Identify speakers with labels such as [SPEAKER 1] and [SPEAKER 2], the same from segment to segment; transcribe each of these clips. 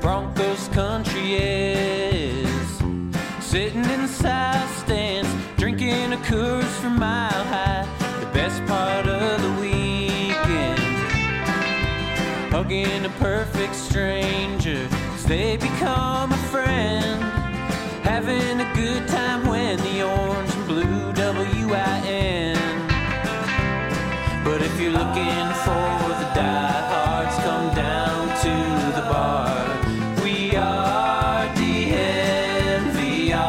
[SPEAKER 1] Broncos country is. Sitting in the south stands, drinking a Coors from Mile High. The best part of the weekend, hugging a perfect stranger as they become a friend. Having a good time when the orange and blue WIN. But if you're looking for the diehards, come down to the bar. We are DNVR.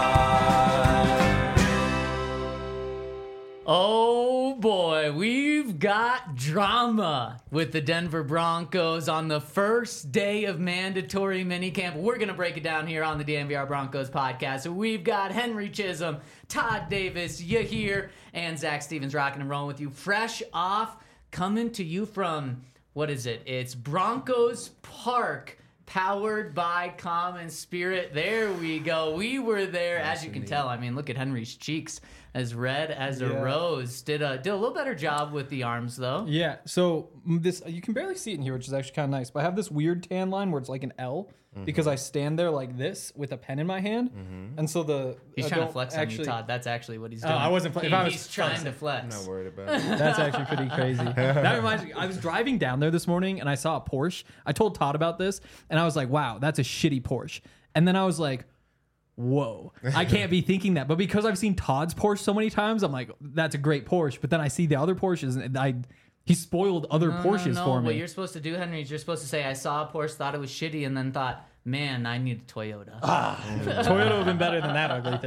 [SPEAKER 2] Oh boy, we've got drama with the Denver Broncos on the first day of mandatory minicamp. We're going to break it down here on the DNVR Broncos podcast. So we've got Henry Chisholm, Todd Davis, Yahir, and Zach Stevens rocking and rolling with you. Fresh off, coming to you from, what is it? It's Broncos Park, powered by Common Spirit. There we go. We were there, as you can tell. I mean, look at Henry's cheeks, as red as a rose. Did a little better job with the arms, though.
[SPEAKER 3] Yeah, so this, you can barely see it in here, which is actually kind of nice. But I have this weird tan line where it's like an L because I stand there like this with a pen in my hand. And so
[SPEAKER 2] He's trying to flex on you, Todd. That's actually what he's doing.
[SPEAKER 3] I wasn't flexing.
[SPEAKER 2] He's trying to flex.
[SPEAKER 4] I'm not worried about it.
[SPEAKER 3] That's actually pretty crazy. That reminds me, I was driving down there this morning and I saw a Porsche. I told Todd about this and I was like, wow, that's a shitty Porsche. And then I was like, whoa, I can't be thinking that. But because I've seen Todd's Porsche so many times, I'm like, that's a great Porsche. But then I see the other Porsches and he spoiled other Porsches for me.
[SPEAKER 2] What you're supposed to do, Henry, is you're supposed to say, I saw a Porsche, thought it was shitty, and then thought, man, I need a Toyota.
[SPEAKER 3] Toyota would have been better than that ugly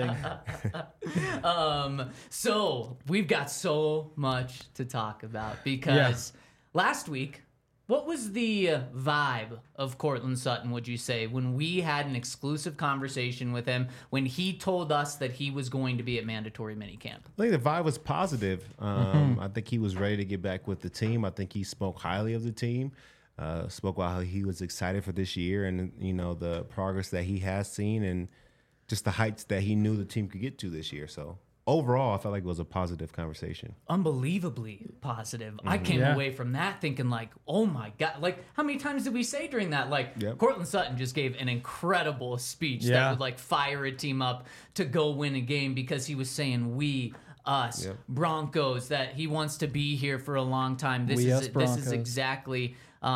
[SPEAKER 3] thing.
[SPEAKER 2] So we've got so much to talk about because last week, what was the vibe of Courtland Sutton, would you say, when we had an exclusive conversation with him, when he told us that he was going to be at mandatory minicamp?
[SPEAKER 4] I think the vibe was positive. I think he was ready to get back with the team. I think he spoke highly of the team, spoke about how he was excited for this year and, you know, the progress that he has seen and just the heights that he knew the team could get to this year. So overall, I felt like it was a positive conversation.
[SPEAKER 2] Unbelievably positive. I came away from that thinking like, oh my God. Like, how many times did we say during that? Like, Courtland Sutton just gave an incredible speech that would like fire a team up to go win a game because he was saying we, us, Broncos, that he wants to be here for a long time. This is exactly...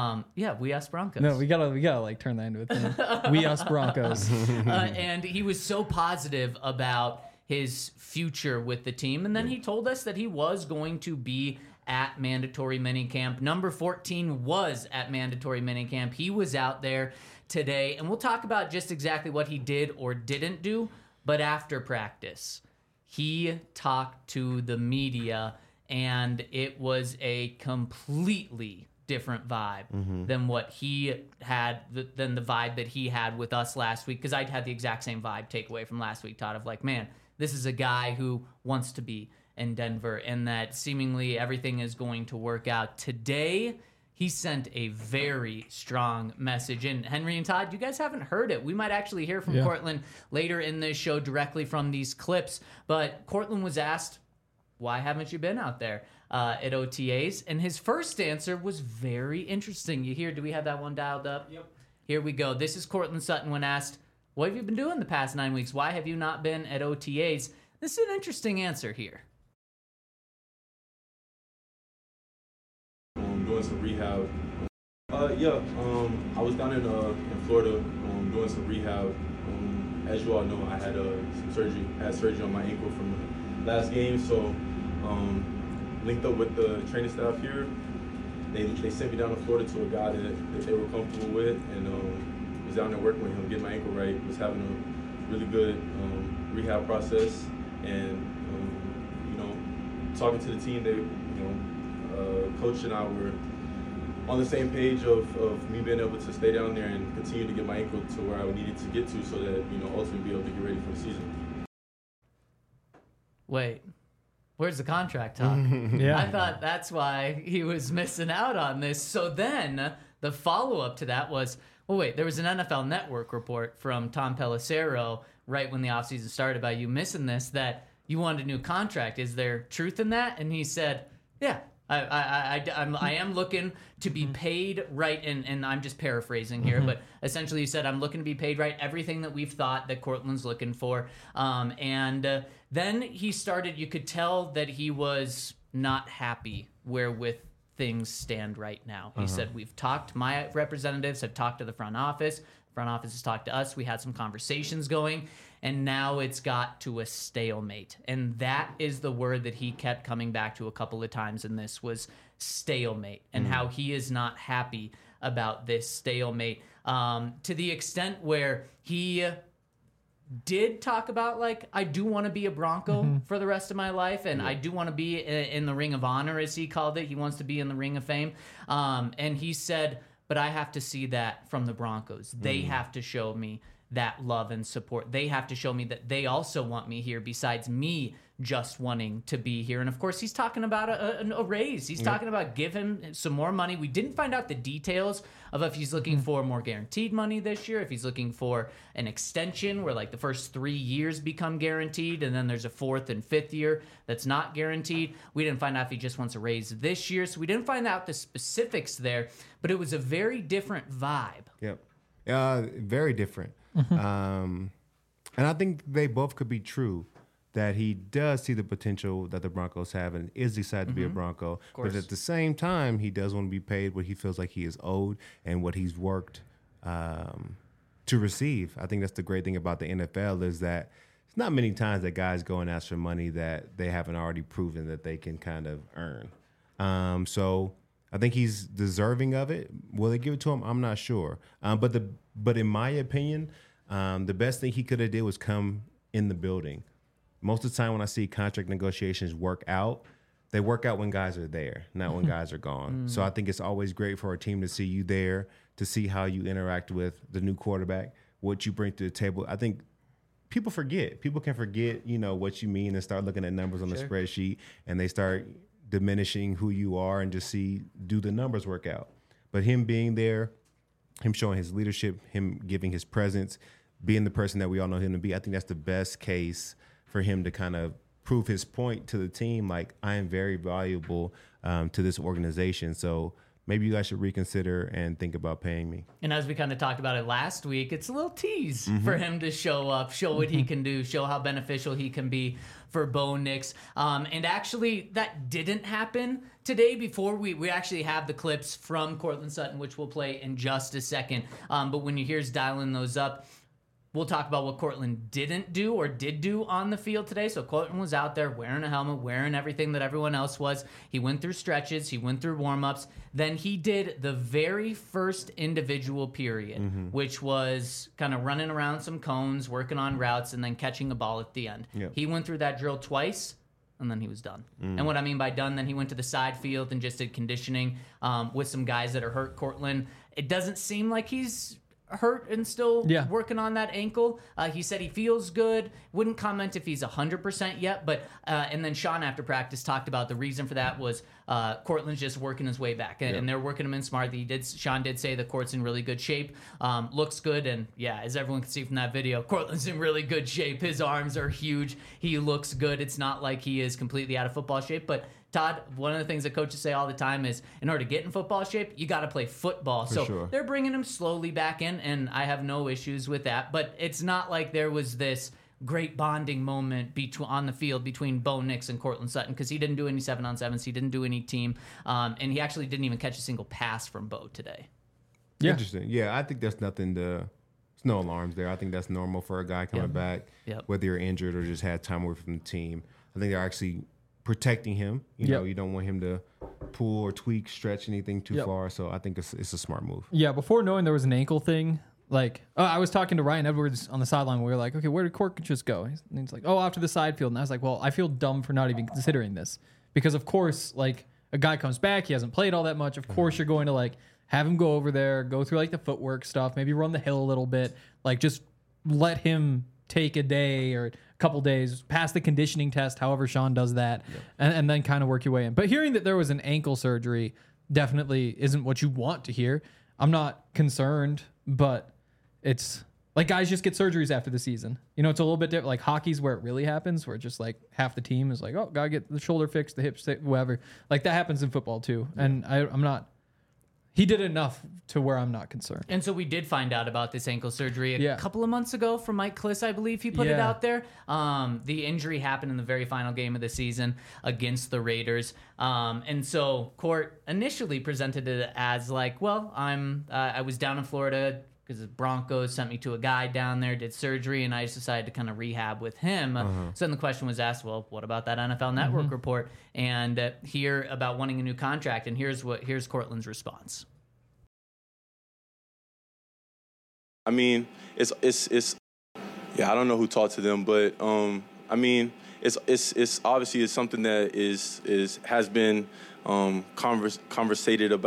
[SPEAKER 2] we us Broncos.
[SPEAKER 3] No, we gotta like turn that into a thing. We us Broncos.
[SPEAKER 2] And he was so positive about his future with the team. And then he told us that he was going to be at mandatory minicamp. Number 14 was at mandatory minicamp. He was out there today. And we'll talk about just exactly what he did or didn't do. But after practice, he talked to the media, and it was a completely different vibe than what he had, than the vibe that he had with us last week. Because I'd had the exact same vibe takeaway from last week, Todd, of like, man, this is a guy who wants to be in Denver and that seemingly everything is going to work out. Today, he sent a very strong message. And Henry and Todd, you guys haven't heard it. We might actually hear from Courtland later in this show directly from these clips. But Courtland was asked, why haven't you been out there at OTAs? And his first answer was very interesting. You hear, do we have that one dialed up? Yep. Here we go. This is Courtland Sutton when asked, what have you been doing the past 9 weeks? Why have you not been at OTAs? This is an interesting answer here.
[SPEAKER 5] Doing some rehab. I was down in Florida doing some rehab. As you all know, I had some surgery. I had surgery on my ankle from the last game, so linked up with the training staff here. They sent me down to Florida to a guy that they were comfortable with, and was down there working with him, getting my ankle right. Was having a really good rehab process, and talking to the team. They, coach and I were on the same page of me being able to stay down there and continue to get my ankle to where I needed to get to, so that ultimately be able to get ready for the season.
[SPEAKER 2] Wait, where's the contract talk? I thought that's why he was missing out on this. So then the follow-up to that was, well, wait, there was an NFL Network report from Tom Pelissero right when the offseason started about you missing this, that you wanted a new contract. Is there truth in that? And he said, yeah, I am looking to be paid right, and I'm just paraphrasing here, but essentially he said, I'm looking to be paid right, everything that we've thought that Cortland's looking for. And then he started, you could tell that he was not happy wherewith things stand right now. He said, we've talked, my representatives have talked to the front office. The front office has talked to us. We had some conversations going, and now it's got to a stalemate. And that is the word that he kept coming back to a couple of times in this was stalemate, and how he is not happy about this stalemate, to the extent where he did talk about, like, I do want to be a Bronco for the rest of my life, and I do want to be in the Ring of Honor, as he called it. He wants to be in the Ring of Fame. And he said, but I have to see that from the Broncos. They have to show me that love and support. They have to show me that they also want me here besides me just wanting to be here. And of course, he's talking about a raise. He's talking about give him some more money. We didn't find out the details of if he's looking for more guaranteed money this year, if he's looking for an extension where like the first 3 years become guaranteed and then there's a 4th and 5th year that's not guaranteed. We didn't find out if he just wants a raise this year. So we didn't find out the specifics there, but it was a very different vibe.
[SPEAKER 4] Yep. Very different. And I think they both could be true, that he does see the potential that the Broncos have and is excited to be a Bronco. But at the same time, he does want to be paid what he feels like he is owed and what he's worked to receive. I think that's the great thing about the NFL is that it's not many times that guys go and ask for money that they haven't already proven that they can kind of earn. So I think he's deserving of it. Will they give it to him? I'm not sure. But in my opinion, the best thing he could have did was come in the building. Most of the time when I see contract negotiations work out, they work out when guys are there, not when guys are gone. So I think it's always great for a team to see you there, to see how you interact with the new quarterback, what you bring to the table. I think people forget. People can forget, what you mean and start looking at numbers on the spreadsheet, and they start diminishing who you are and just do the numbers work out. But him being there, him showing his leadership, him giving his presence, being the person that we all know him to be, I think that's the best case for him to kind of prove his point to the team, like, I am very valuable to this organization. So maybe you guys should reconsider and think about paying me.
[SPEAKER 2] And as we kind of talked about it last week, it's a little tease for him to show up, show what he can do, show how beneficial he can be for Bo Nix. And actually, that didn't happen today. Before we actually have the clips from Courtland Sutton, which we'll play in just a second. But when you hear us dialing those up, we'll talk about what Courtland didn't do or did do on the field today. So Courtland was out there wearing a helmet, wearing everything that everyone else was. He went through stretches. He went through warm-ups. Then he did the very first individual period, which was kind of running around some cones, working on routes, and then catching a ball at the end.
[SPEAKER 4] Yep.
[SPEAKER 2] He went through that drill twice, and then he was done. And what I mean by done, then he went to the side field and just did conditioning with some guys that are hurt. Courtland, it doesn't seem like he's hurt and still working on that ankle. He said he feels good. Wouldn't comment if he's 100% yet, but and then Sean after practice talked about the reason for that was Courtland's just working his way back, and they're working him in smart. Sean did say the Court's in really good shape, looks good, and as everyone can see from that video, Courtland's in really good shape. His arms are huge. He looks good. It's not like he is completely out of football shape, but Todd, one of the things that coaches say all the time is in order to get in football shape, you got to play football. So they're bringing him slowly back in, and I have no issues with that. But it's not like there was this great bonding moment on the field between Bo Nix and Courtland Sutton, because he didn't do any 7-on-7s. He didn't do any team. And he actually didn't even catch a single pass from Bo today.
[SPEAKER 4] Yeah. Interesting. Yeah, I think there's there's no alarms there. I think that's normal for a guy coming back, whether you're injured or just had time away from the team. I think they're actually protecting him. You know, you don't want him to pull or tweak, stretch anything too far. So I think it's a smart move. Yeah,
[SPEAKER 3] before knowing there was an ankle thing, I was talking to Ryan Edwards on the sideline. We were like, okay, where did Court just go? And he's like, off to the side field. And I was like, well, I feel dumb for not even considering this. Because, of course, a guy comes back, he hasn't played all that much. Of course, you're going to, have him go over there, go through, the footwork stuff, maybe run the hill a little bit. Just let him take a day or couple days, pass the conditioning test, however Sean does that, and then kind of work your way in. But hearing that there was an ankle surgery definitely isn't what you want to hear. I'm not concerned, but it's Like guys just get surgeries after the season. You know, it's a little bit different. Like hockey's where it really happens, where just like half the team is like, oh, gotta get the shoulder fixed, the hips, whatever. Like that happens in football too. And I'm not. He did enough to where I'm not concerned.
[SPEAKER 2] And so we did find out about this ankle surgery a
[SPEAKER 3] Yeah.
[SPEAKER 2] couple of months ago from Mike Kliss, I believe he put it
[SPEAKER 3] Yeah.
[SPEAKER 2] out there. The injury happened in the very final game of the season against the Raiders. And so Court initially presented it as like, well, I was down in Florida because the Broncos sent me to a guy down there, did surgery, and I just decided to kind of rehab with him. So then the question was asked, well, what about that NFL Network report? And hear about wanting a new contract. And here's Cortland's response.
[SPEAKER 5] I mean, it's yeah, I don't know who talked to them, but I mean, it's obviously it's something that has been conversed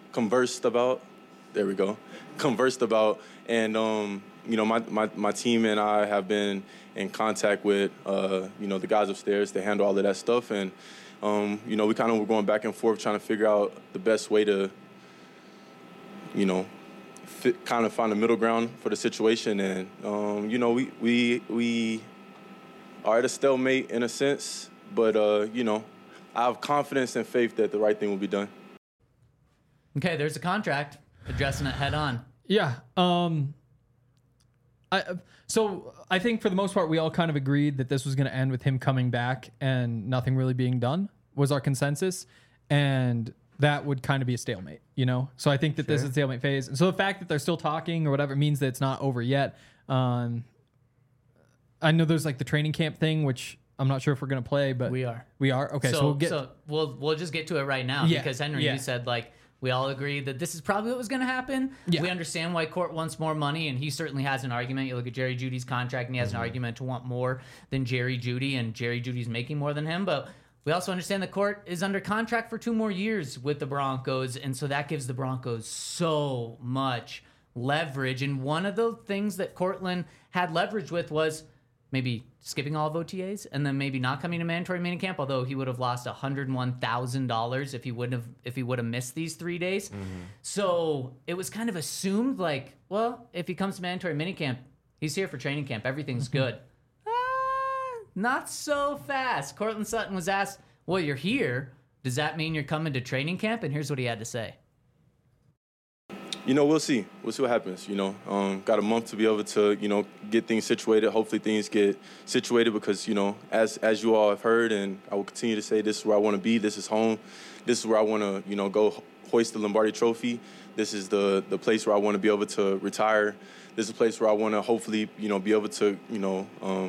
[SPEAKER 5] about, and you know, my team and I have been in contact with you know, the guys upstairs to handle all of that stuff, and you know, we kind of were going back and forth trying to figure out the best way to, you know, kind of find a middle ground for the situation, and you know, we are at a stalemate in a sense, but you know, I have confidence and faith that the right thing will be done.
[SPEAKER 2] Okay, there's a contract, addressing it head on.
[SPEAKER 3] Yeah. So I think for the most part, we all kind of agreed that this was going to end with him coming back and nothing really being done was our consensus. And that would kind of be a stalemate, you know? So I think that this is a stalemate phase. And so the fact that they're still talking or whatever means that it's not over yet. I know there's like the training camp thing, which I'm not sure if we're going to play, but
[SPEAKER 2] We are.
[SPEAKER 3] Okay. So
[SPEAKER 2] we'll just get to it right now,
[SPEAKER 3] Yeah,
[SPEAKER 2] because Henry,
[SPEAKER 3] yeah.
[SPEAKER 2] you said like, we all agree that this is probably what was going to happen.
[SPEAKER 3] Yeah.
[SPEAKER 2] We understand why Court wants more money, and he certainly has an argument. You look at Jerry Jeudy's contract, and he has an argument to want more than Jerry Jeudy, and Jerry Jeudy's making more than him. But we also understand that Court is under contract for 2 more years with the Broncos, and so that gives the Broncos so much leverage. And one of the things that Cortland had leverage with was maybe skipping all of OTAs and then maybe not coming to mandatory minicamp, although he would have lost $101,000 if he would have missed these 3 days. So it was kind of assumed like, well, if he comes to mandatory minicamp, he's here for training camp. Everything's good. Not so fast. Cortland Sutton was asked, well, you're here. Does that mean you're coming to training camp? And here's what he had to say.
[SPEAKER 5] You know, we'll see. We'll see what happens. You know, got a month to be able to, you know, get things situated. Hopefully things get situated because, you know, as you all have heard, and I will continue to say, this is where I want to be. This is home. This is where I want to, you know, go hoist the Lombardi Trophy. This is the place where I want to be able to retire. This is a place where I want to hopefully, you know, be able to, you know,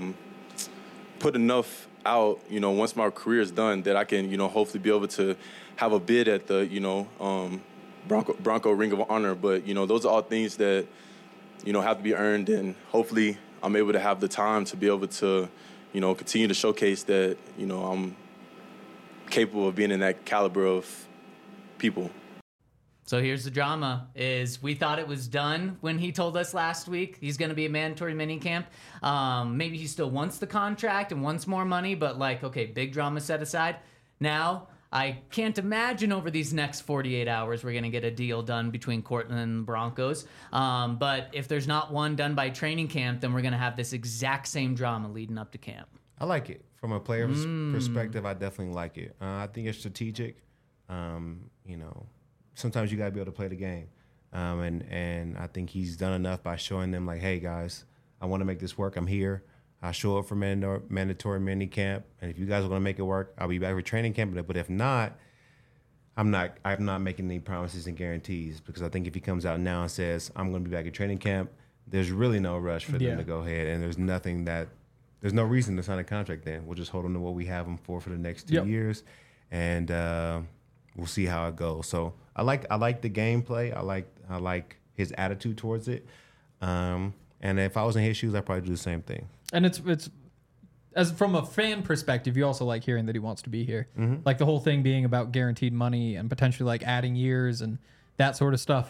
[SPEAKER 5] put enough out, you know, once my career is done, that I can, you know, hopefully be able to have a bid at the, you know, Bronco Ring of Honor. But, you know, those are all things that, you know, have to be earned, and hopefully I'm able to have the time to be able to, you know, continue to showcase that, you know, I'm capable of being in that caliber of people.
[SPEAKER 2] So here's the drama, is we thought it was done when he told us last week he's going to be a mandatory minicamp. Maybe he still wants the contract and wants more money, but like, okay, big drama set aside. Now, I can't imagine over these next 48 hours we're going to get a deal done between Cortland and the Broncos. But if there's not one done by training camp, then we're going to have this exact same drama leading up to camp.
[SPEAKER 4] I like it. From a player's perspective, I definitely like it. I think it's strategic. You know, sometimes you got to be able to play the game. And I think he's done enough by showing them, like, hey, guys, I want to make this work. I'm here. I show up for mandatory mini camp, and if you guys are going to make it work, I'll be back for training camp. But if not, I'm not making any promises and guarantees, because I think if he comes out now and says I'm going to be back at training camp, there's really no rush for them to go ahead, and there's no reason to sign a contract. Then we'll just hold on to what we have him for the next 2 years, and we'll see how it goes. So I like the gameplay. I like his attitude towards it. And if I was in his shoes, I'd probably do the same thing.
[SPEAKER 3] And it's as from a fan perspective, you also like hearing that he wants to be here. Like the whole thing being about guaranteed money and potentially like adding years and that sort of stuff.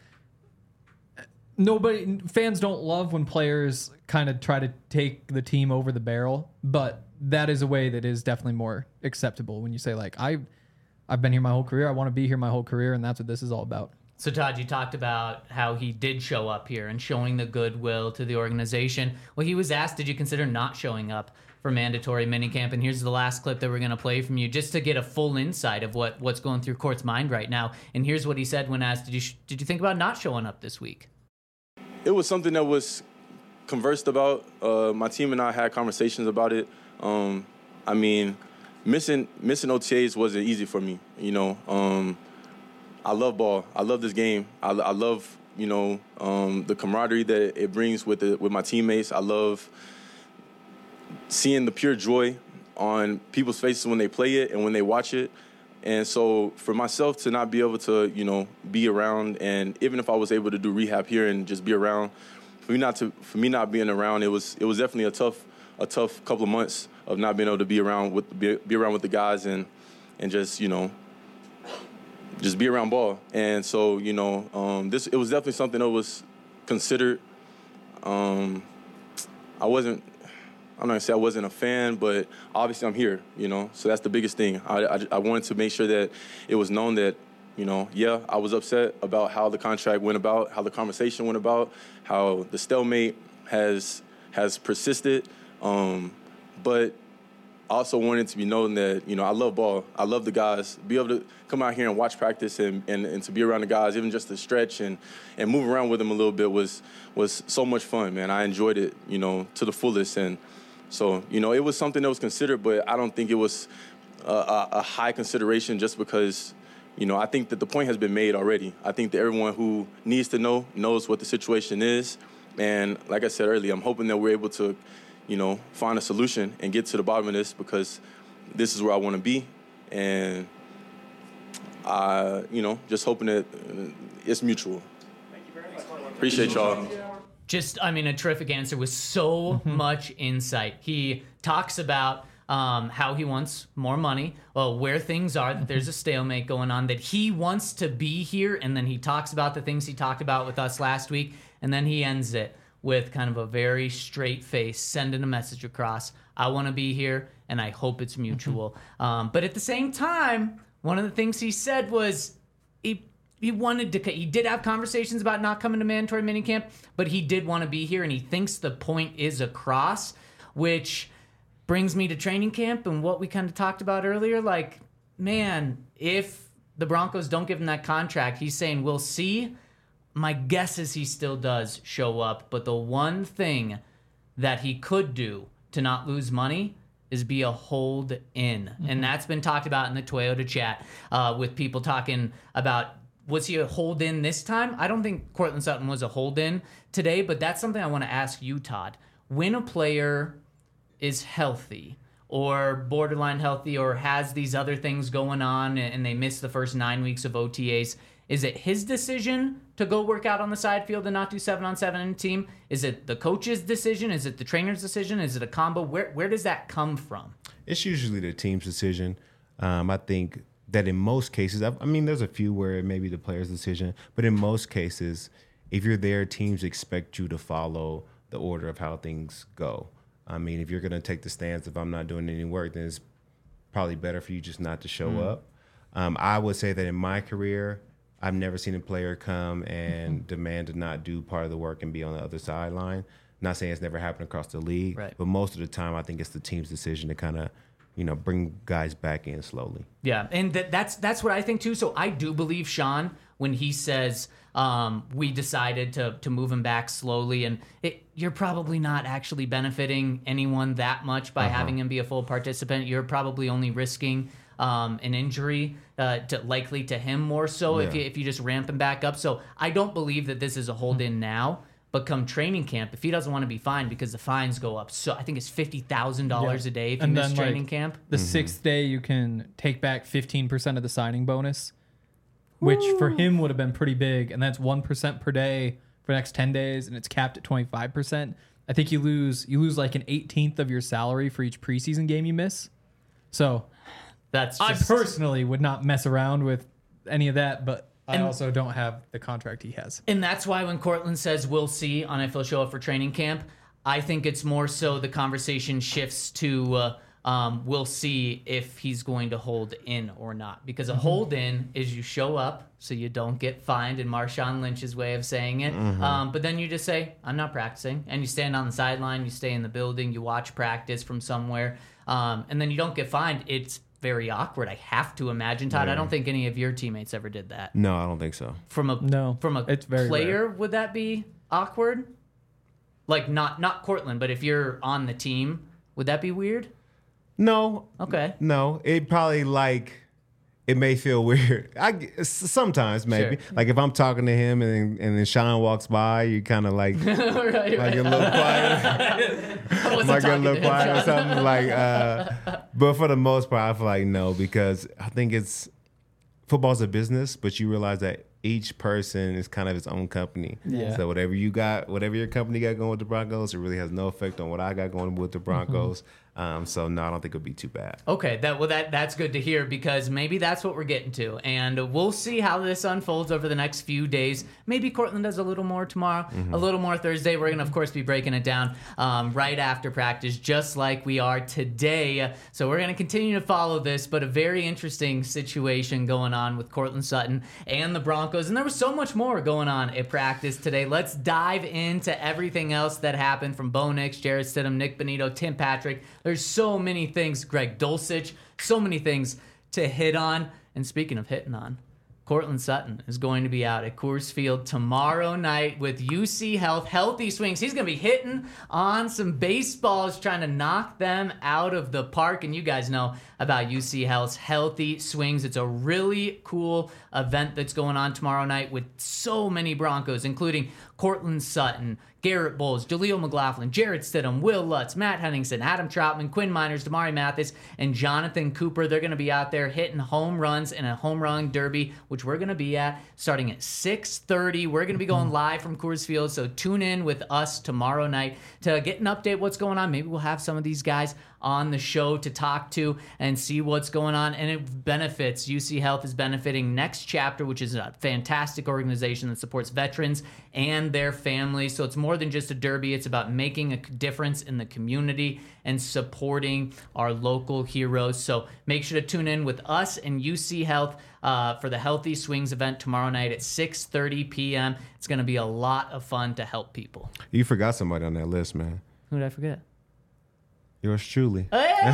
[SPEAKER 3] Fans don't love when players kind of try to take the team over the barrel, but that is a way that is definitely more acceptable when you say like, I've been here my whole career. I want to be here my whole career, and that's what this is all about.
[SPEAKER 2] So, Todd, you talked about how he did show up here and showing the goodwill to the organization. Well, he was asked, did you consider not showing up for mandatory minicamp? And here's the last clip that we're going to play from you just to get a full insight of what's going through Court's mind right now. And here's what he said when asked, did you think about not showing up this week?
[SPEAKER 5] It was something that was conversed about. My team and I had conversations about it. I mean, missing OTAs wasn't easy for me, you know. I love ball. I love this game. I love, you know, the camaraderie that it brings with my teammates. I love seeing the pure joy on people's faces when they play it and when they watch it. And so for myself to not be able to, you know, be around, and even if I was able to do rehab here and just be around, for me not being around, it was definitely a tough couple of months of not being able to be around with the guys and just, you know, just be around ball. And so, you know, it was definitely something that was considered. I'm not gonna say I wasn't a fan, but obviously I'm here, you know, so that's the biggest thing. I wanted to make sure that it was known that, you know, yeah, I was upset about how the contract went about, how the conversation went about, how the stalemate has persisted, but I also wanted to be known that, you know, I love ball. I love the guys. Be able to come out here and watch practice and to be around the guys, even just to stretch and move around with them a little bit was so much fun, man. I enjoyed it, you know, to the fullest. And so, you know, it was something that was considered, but I don't think it was a high consideration just because, you know, I think that the point has been made already. I think that everyone who needs to know knows what the situation is. And like I said earlier, I'm hoping that we're able to, you know, find a solution and get to the bottom of this because this is where I want to be. And you know, just hoping that it's mutual. Thank you very much. Appreciate y'all.
[SPEAKER 2] A terrific answer with so much insight. He talks about how he wants more money, where things are, that there's a stalemate going on, that he wants to be here, and then he talks about the things he talked about with us last week, and then he ends it with kind of a very straight face, sending a message across. I want to be here, and I hope it's mutual. But at the same time, one of the things he said was he did have conversations about not coming to mandatory minicamp, but he did want to be here, and he thinks the point is across, which brings me to training camp and what we kind of talked about earlier. Like, man, if the Broncos don't give him that contract, he's saying, we'll see. My guess is he still does show up, but the one thing that he could do to not lose money is be a hold in. And that's been talked about in the Toyota chat with people talking about, was he a hold in this time? I don't think Courtland Sutton was a hold in today, but that's something I want to ask you, Todd. When a player is healthy or borderline healthy or has these other things going on and they miss the first 9 weeks of OTAs, is it his decision to go work out on the side field and not do 7-on-7 in a team? Is it the coach's decision? Is it the trainer's decision? Is it a combo? Where does that come from?
[SPEAKER 4] It's usually the team's decision. I think that in most cases, I mean, there's a few where it may be the player's decision, but in most cases, if you're there, teams expect you to follow the order of how things go. I mean, if you're going to take the stance, if I'm not doing any work, then it's probably better for you just not to show up. I would say that in my career, I've never seen a player come and demand to not do part of the work and be on the other sideline. Not saying it's never happened across the league,
[SPEAKER 2] right,
[SPEAKER 4] but most of the time I think it's the team's decision to kind of, you know, bring guys back in slowly.
[SPEAKER 2] Yeah, and that's what I think too. So I do believe Sean when he says we decided to move him back slowly, and you're probably not actually benefiting anyone that much by having him be a full participant. You're probably only risking an injury likely to him more so if you just ramp him back up. So I don't believe that this is a hold in now. But come training camp, if he doesn't want to be fined because the fines go up, so I think it's $50,000 a day if you miss training camp.
[SPEAKER 3] The sixth day, you can take back 15% of the signing bonus, which for him would have been pretty big. And that's 1% per day for the next 10 days, and it's capped at 25%. I think you lose like an 18th of your salary for each preseason game you miss. So I personally would not mess around with any of that, but I also don't have the contract he has.
[SPEAKER 2] And that's why when Courtland says we'll see on if he'll show up for training camp, I think it's more so the conversation shifts to we'll see if he's going to hold in or not. Because a hold in is you show up so you don't get fined, in Marshawn Lynch's way of saying it. But then you just say, I'm not practicing. And you stand on the sideline, you stay in the building, you watch practice from somewhere, and then you don't get fined. It's very awkward, I have to imagine. Todd, I don't think any of your teammates ever did that.
[SPEAKER 4] No, I don't think so.
[SPEAKER 2] From a
[SPEAKER 3] it's very
[SPEAKER 2] player,
[SPEAKER 3] rare.
[SPEAKER 2] would that be awkward? Like not Cortland, but if you're on the team, would that be weird?
[SPEAKER 4] No.
[SPEAKER 2] Okay.
[SPEAKER 4] No, it probably it may feel weird. Sometimes maybe
[SPEAKER 2] Sure.
[SPEAKER 4] like if I'm talking to him and then Sean walks by, you kind of like
[SPEAKER 2] right,
[SPEAKER 4] like a little quiet,
[SPEAKER 2] I wasn't
[SPEAKER 4] like a
[SPEAKER 2] talking
[SPEAKER 4] little
[SPEAKER 2] to him,
[SPEAKER 4] quiet or
[SPEAKER 2] Sean.
[SPEAKER 4] something like. But for the most part, I feel like no, because I think football's a business, but you realize that each person is kind of its own company.
[SPEAKER 3] Yeah.
[SPEAKER 4] So whatever your company got going with the Broncos, it really has no effect on what I got going with the Broncos. So no, I don't think it'll be too bad.
[SPEAKER 2] Okay, that's good to hear, because maybe that's what we're getting to, and we'll see how this unfolds over the next few days. Maybe Cortland does a little more tomorrow, a little more Thursday. We're gonna, of course, be breaking it down right after practice, just like we are today. So we're gonna continue to follow this, but a very interesting situation going on with Cortland Sutton and the Broncos, and there was so much more going on at practice today. Let's dive into everything else that happened from Bo Nix, Jarrett Stidham, Nick Bonito, Tim Patrick. There's so many things, Greg Dulcich, so many things to hit on. And speaking of hitting on, Cortland Sutton is going to be out at Coors Field tomorrow night with UC Health Healthy Swings. He's going to be hitting on some baseballs, trying to knock them out of the park. And you guys know about UC Health's Healthy Swings. It's a really cool event that's going on tomorrow night with so many Broncos, including Cortland Sutton, Garrett Bowles, Jaleel McLaughlin, Jarrett Stidham, Will Lutz, Matt Henningsen, Adam Troutman, Quinn Miners, Damari Mathis, and Jonathan Cooper. They're going to be out there hitting home runs in a home run derby, which we're going to be at starting at 6:30. We're going to be going live from Coors Field, so tune in with us tomorrow night to get an update what's going on. Maybe we'll have some of these guys on the show to talk to and see what's going on. And it benefits, UC Health is benefiting Next Chapter, which is a fantastic organization that supports veterans and their families. So it's more than just a derby. It's about making a difference in the community and supporting our local heroes. So make sure to tune in with us and UC Health for the Healthy Swings event tomorrow night at 6:30 p.m. It's going to be a lot of fun to help people.
[SPEAKER 4] You forgot somebody on that list, man.
[SPEAKER 2] Who did I forget?
[SPEAKER 4] Yours truly.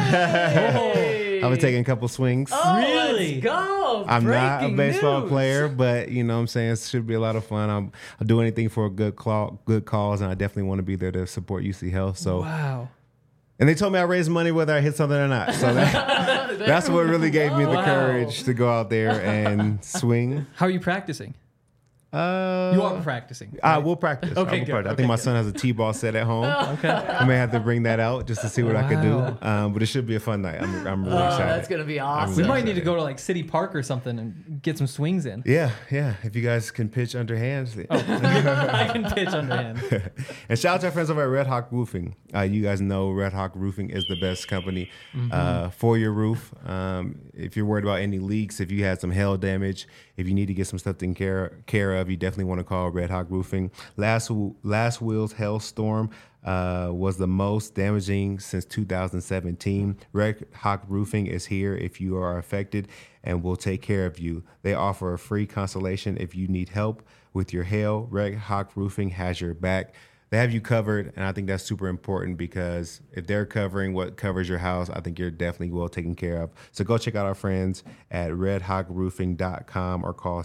[SPEAKER 2] Hey!
[SPEAKER 4] I was taking a couple swings.
[SPEAKER 2] Oh,
[SPEAKER 3] Really?
[SPEAKER 2] Let's go.
[SPEAKER 4] I'm not a
[SPEAKER 2] Breaking
[SPEAKER 4] baseball
[SPEAKER 2] news.
[SPEAKER 4] player, but you know what I'm saying, it should be a lot of fun. I'll do anything for a good cause, and I definitely want to be there to support UC Health. So,
[SPEAKER 3] Wow.
[SPEAKER 4] and they told me I raised money whether I hit something or not. So that's what really gave me the
[SPEAKER 3] Wow.
[SPEAKER 4] courage to go out there and swing.
[SPEAKER 3] How are you practicing? You are practicing.
[SPEAKER 4] I will practice.
[SPEAKER 3] Okay,
[SPEAKER 4] I will
[SPEAKER 3] good.
[SPEAKER 4] practice. I
[SPEAKER 3] Okay,
[SPEAKER 4] think my
[SPEAKER 3] good.
[SPEAKER 4] son has a T-ball set at home.
[SPEAKER 3] Okay.
[SPEAKER 4] I may have to bring that out just to see what I could do.
[SPEAKER 3] Wow.
[SPEAKER 4] But it should be a fun night. I'm really
[SPEAKER 2] Oh,
[SPEAKER 4] excited.
[SPEAKER 2] that's going to be awesome.
[SPEAKER 3] We might need to go to like City Park or something and get some swings in.
[SPEAKER 4] Yeah. If you guys can pitch underhands.
[SPEAKER 3] I can pitch underhand.
[SPEAKER 4] And shout out to our friends over at Red Hawk Roofing. You guys know Red Hawk Roofing is the best company for your roof. If you're worried about any leaks, if you had some hail damage, if you need to get some stuff taken care of, you definitely want to call Red Hawk Roofing. Last Will's hailstorm was the most damaging since 2017. Red Hawk Roofing is here if you are affected and will take care of you. They offer a free consultation if you need help with your hail. Red Hawk Roofing has your back. They have you covered, and I think that's super important because if they're covering what covers your house, I think you're definitely well taken care of. So go check out our friends at redhawkroofing.com or call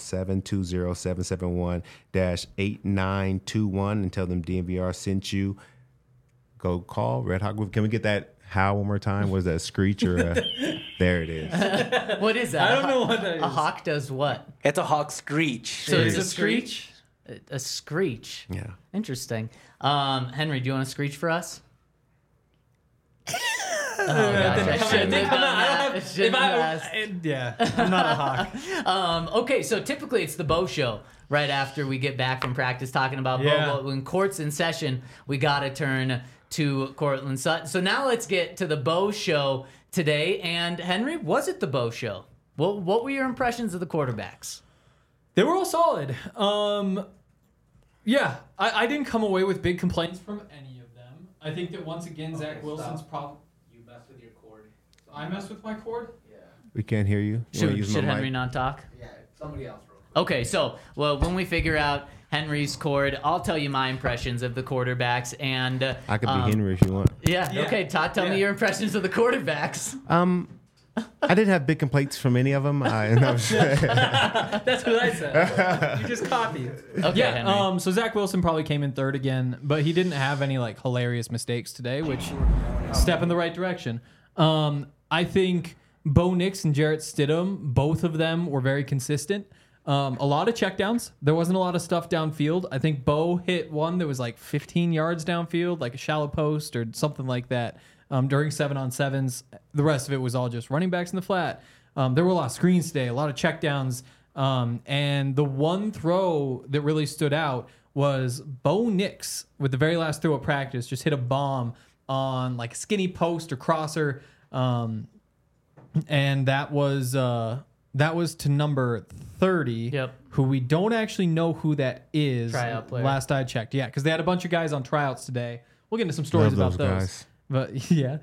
[SPEAKER 4] 720-771-8921 and tell them DNVR sent you. Go call Red Hawk Roofing. Can we get that howl one more time? What is that, a screech or a... There it is.
[SPEAKER 2] What is that?
[SPEAKER 3] I don't know what that is.
[SPEAKER 2] A hawk does what?
[SPEAKER 6] It's a hawk screech.
[SPEAKER 2] So
[SPEAKER 3] Is
[SPEAKER 2] it's
[SPEAKER 3] it
[SPEAKER 2] a screech? A screech.
[SPEAKER 4] Yeah.
[SPEAKER 2] Interesting. Henry, do you want to screech for us? Oh, gosh, I shouldn't have done that. I shouldn't have asked.
[SPEAKER 3] Yeah, I'm not a hawk.
[SPEAKER 2] Okay, so typically it's the Bo Show right after we get back from practice talking about
[SPEAKER 3] Yeah.
[SPEAKER 2] Bo. But when court's in session, we got to turn to Cortland Sutton. So now let's get to the Bo Show today. And Henry, was it the Bo Show? What were your impressions of the quarterbacks?
[SPEAKER 3] They were all solid. Yeah, I didn't come away with big complaints from any of them. I think that once again, Zach Wilson's problem.
[SPEAKER 6] You messed with your cord.
[SPEAKER 3] I mess with my cord?
[SPEAKER 4] We can't hear you. You wanna use my
[SPEAKER 2] Should
[SPEAKER 4] mic?
[SPEAKER 2] Henry not talk?
[SPEAKER 3] Yeah, somebody else wrote.
[SPEAKER 2] Okay, so when we figure out Henry's cord, I'll tell you my impressions of the quarterbacks. And
[SPEAKER 4] I could be Henry if you want.
[SPEAKER 2] Yeah. Okay, Todd, tell me your impressions of the quarterbacks.
[SPEAKER 4] I didn't have big complaints from any of them.
[SPEAKER 3] That's what I said. You just copied.
[SPEAKER 2] Okay, Henry.
[SPEAKER 3] So Zach Wilson probably came in third again, but he didn't have any like hilarious mistakes today, which step in the right direction. I think Bo Nix and Jarrett Stidham, both of them were very consistent. A lot of checkdowns. There wasn't a lot of stuff downfield. I think Bo hit one that was like 15 yards downfield, like a shallow post or something like that. During 7-on-7s, the rest of it was all just running backs in the flat. There were a lot of screens today, a lot of checkdowns. And the one throw that really stood out was Bo Nix with the very last throw of practice, just hit a bomb on like a skinny post or crosser. And that was to number 30,
[SPEAKER 2] Yep.
[SPEAKER 3] who we don't actually know who that is.
[SPEAKER 2] Tryout player.
[SPEAKER 3] Last I checked. Yeah, because they had a bunch of guys on tryouts today. We'll get into some stories
[SPEAKER 4] Love
[SPEAKER 3] about
[SPEAKER 4] those
[SPEAKER 3] those.
[SPEAKER 4] guys.
[SPEAKER 3] But yeah,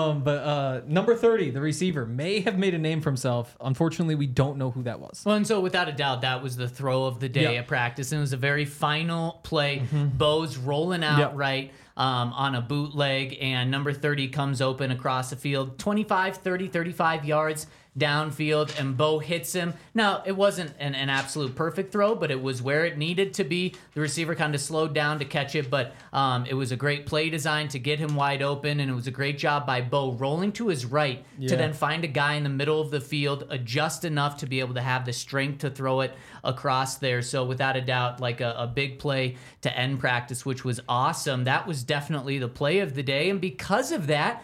[SPEAKER 3] number 30, the receiver, may have made a name for himself. Unfortunately, we don't know who that was.
[SPEAKER 2] Well, and so without a doubt, that was the throw of the day
[SPEAKER 3] Yep.
[SPEAKER 2] at practice. And it was a very final play. Bo's rolling out
[SPEAKER 3] Yep.
[SPEAKER 2] right on a bootleg, and number 30 comes open across the field, 25, 30, 35 yards downfield, and Bo hits him. Now, it wasn't an absolute perfect throw, but it was where it needed to be. The receiver kind of slowed down to catch it, but it was a great play design to get him wide open, and it was a great job by Bo rolling to his right to then find a guy in the middle of the field, adjust enough to be able to have the strength to throw it across there. So without a doubt, like a big play to end practice, which was awesome. That was definitely the play of the day, and because of that,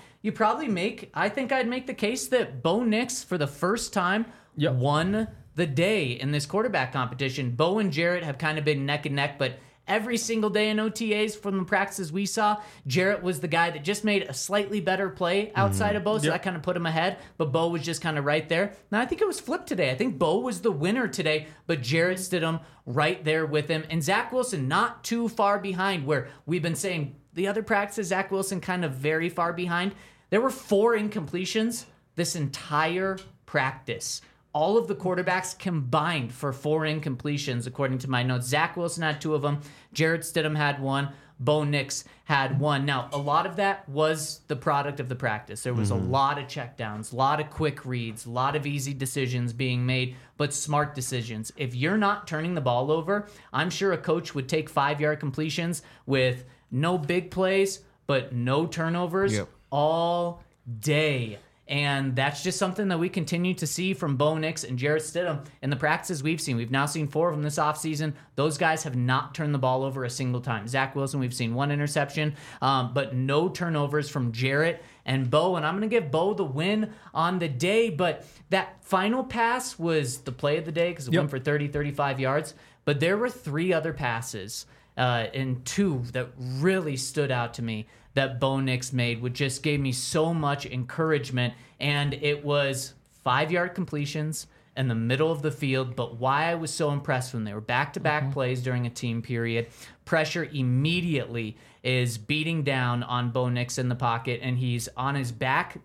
[SPEAKER 2] I think I'd make the case that Bo Nix, for the first time, won the day in this quarterback competition. Bo and Jarrett have kind of been neck and neck, but every single day in OTAs from the practices we saw, Jarrett was the guy that just made a slightly better play outside of Bo, so that kind of put him ahead, but Bo was just kind of right there. Now, I think it was flipped today. I think Bo was the winner today, but Jarrett Stidham right there with him, and Zach Wilson not too far behind, where we've been saying the other practices, Zach Wilson kind of very far behind. There were 4 incompletions this entire practice. All of the quarterbacks combined for 4 incompletions, according to my notes. Zach Wilson had 2 of them. Jarrett Stidham had 1. Bo Nix had 1. Now, a lot of that was the product of the practice. There was a lot of checkdowns, a lot of quick reads, a lot of easy decisions being made, but smart decisions. If you're not turning the ball over, I'm sure a coach would take 5-yard completions with no big plays, but no turnovers.
[SPEAKER 4] Yep.
[SPEAKER 2] All day. And that's just something that we continue to see from Bo Nix and Jarrett Stidham in the practices we've seen. We've now seen 4 of them this offseason. Those guys have not turned the ball over a single time. Zach Wilson, we've seen 1 interception, but no turnovers from Jarrett and Bo. And I'm going to give Bo the win on the day. But that final pass was the play of the day because it went for 30, 35 yards. But there were 3 other passes and 2 that really stood out to me that Bo Nix made, which just gave me so much encouragement. And it was 5-yard completions in the middle of the field. But why I was so impressed when they were back-to-back plays during a team period, pressure immediately is beating down on Bo Nix in the pocket, and he's on his back,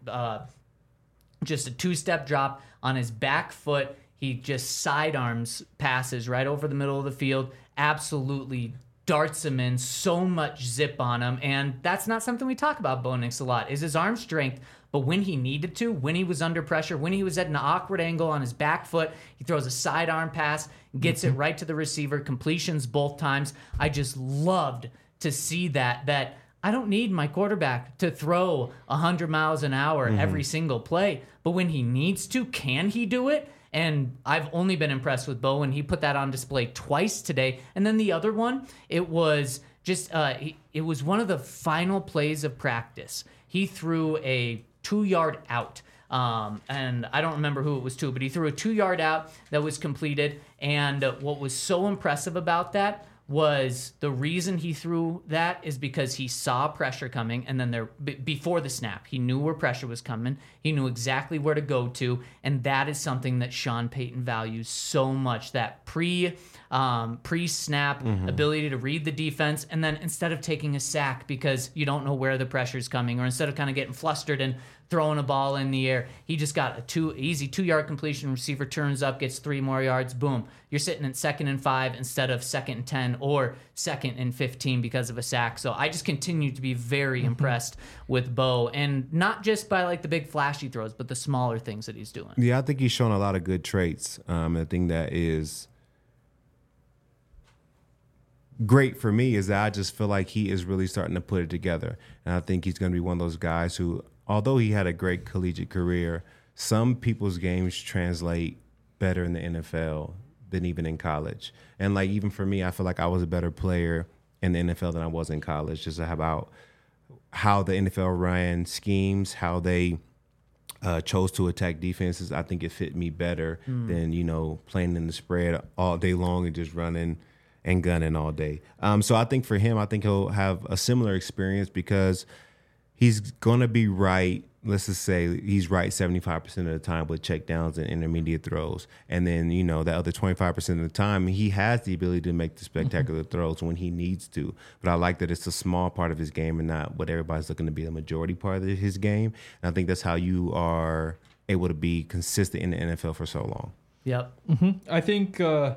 [SPEAKER 2] just a 2-step drop on his back foot. He just sidearms passes right over the middle of the field, absolutely darts him in, so much zip on him. And that's not something we talk about Bo Nix a lot, is his arm strength. But when he needed to, when he was under pressure, when he was at an awkward angle on his back foot, he throws a sidearm pass, gets it right to the receiver, completions both times. I just loved to see that I don't need my quarterback to throw 100 miles an hour every single play. But when he needs to, can he do it? And I've only been impressed with Bo, and he put that on display twice today. And then the other one, it was just it was one of the final plays of practice. He threw a 2-yard out. And I don't remember who it was to, but he threw a 2-yard out that was completed. And what was so impressive about that was the reason he threw that is because he saw pressure coming, and then before the snap, he knew where pressure was coming. He knew exactly where to go to, and that is something that Sean Payton values so much, that pre-snap ability to read the defense, and then instead of taking a sack because you don't know where the pressure's coming, or instead of kind of getting flustered and throwing a ball in the air, he just got a easy 2-yard completion. Receiver turns up, gets 3 more yards. Boom. You're sitting at 2nd and 5 instead of 2nd and 10 or 2nd and 15 because of a sack. So I just continue to be very impressed with Bo, and not just by like the big flashy throws, but the smaller things that he's doing.
[SPEAKER 4] Yeah, I think he's shown a lot of good traits. The thing that is great for me is that I just feel like he is really starting to put it together. And I think he's going to be one of those guys who, although he had a great collegiate career, some people's games translate better in the NFL than even in college. And like, even for me, I feel like I was a better player in the NFL than I was in college, just about how the NFL ran schemes, how they chose to attack defenses. I think it fit me better than, playing in the spread all day long and just running and gunning all day. So I think for him, I think he'll have a similar experience because he's going to be right. Let's just say he's right 75% of the time with checkdowns and intermediate throws. And then, the other 25% of the time, he has the ability to make the spectacular throws when he needs to. But I like that it's a small part of his game and not what everybody's looking to be the majority part of his game. And I think that's how you are able to be consistent in the NFL for so long.
[SPEAKER 2] Yep.
[SPEAKER 3] I think the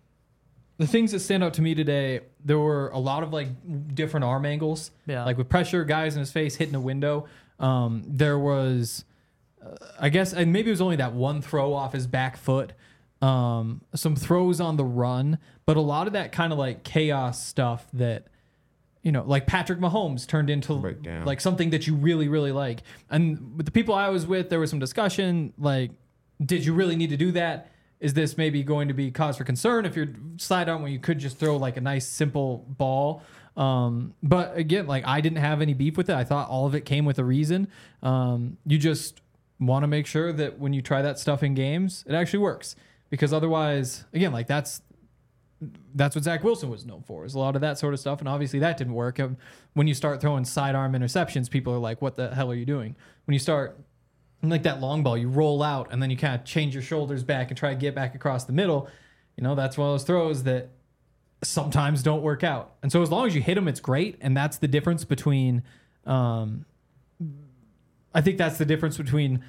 [SPEAKER 3] things that stand out to me today, there were a lot of like different arm angles, like with pressure, guys in his face, hitting a window. There was, I guess, and maybe it was only that one throw off his back foot, some throws on the run, but a lot of that kind of like chaos stuff that, like Patrick Mahomes turned into like something that you really, really like. And with the people I was with, there was some discussion, like, did you really need to do that? Is this maybe going to be cause for concern if you're slide on when you could just throw like a nice simple ball? But again, like I didn't have any beef with it. I thought all of it came with a reason. You just want to make sure that when you try that stuff in games, it actually works, because otherwise, again, like that's what Zach Wilson was known for, is a lot of that sort of stuff. And obviously that didn't work. When you start throwing sidearm interceptions, people are like, what the hell are you doing? When you start like that long ball, you roll out and then you kind of change your shoulders back and try to get back across the middle. That's one of those throws that sometimes don't work out. And so as long as you hit them, it's great. And that's the difference between, I think that's the difference between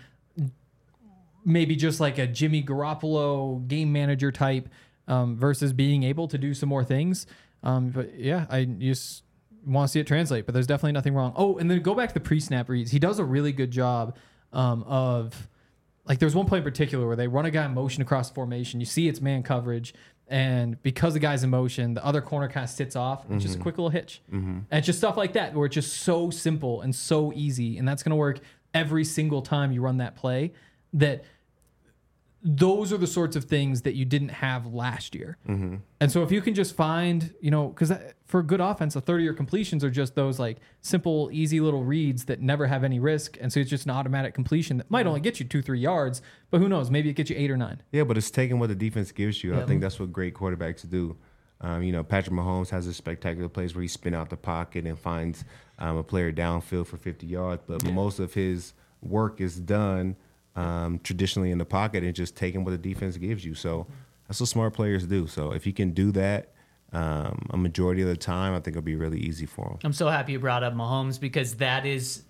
[SPEAKER 3] maybe just like a Jimmy Garoppolo game manager type versus being able to do some more things. But yeah, I just want to see it translate, but there's definitely nothing wrong. Oh, and then go back to the pre-snap reads. He does a really good job of, like, there's one play in particular where they run a guy in motion across the formation. You see it's man coverage, and because the guy's in motion, the other corner kind of sits off. It's just a quick little hitch. And it's just stuff like that where it's just so simple and so easy, and that's going to work every single time you run that play. That those are the sorts of things that you didn't have last year. And so if you can just find, because for a good offense, the 30-year completions are just those like simple, easy little reads that never have any risk. And so it's just an automatic completion that might only get you 2-3 yards, but who knows? Maybe it gets you 8 or 9.
[SPEAKER 4] Yeah, but it's taking what the defense gives you. I think that's what great quarterbacks do. Patrick Mahomes has a spectacular plays where he spin out the pocket and finds a player downfield for 50 yards, but most of his work is done traditionally in the pocket and just taking what the defense gives you. So that's what smart players do. So if he can do that a majority of the time, I think it'll be really easy for him.
[SPEAKER 2] I'm so happy you brought up Mahomes, because that is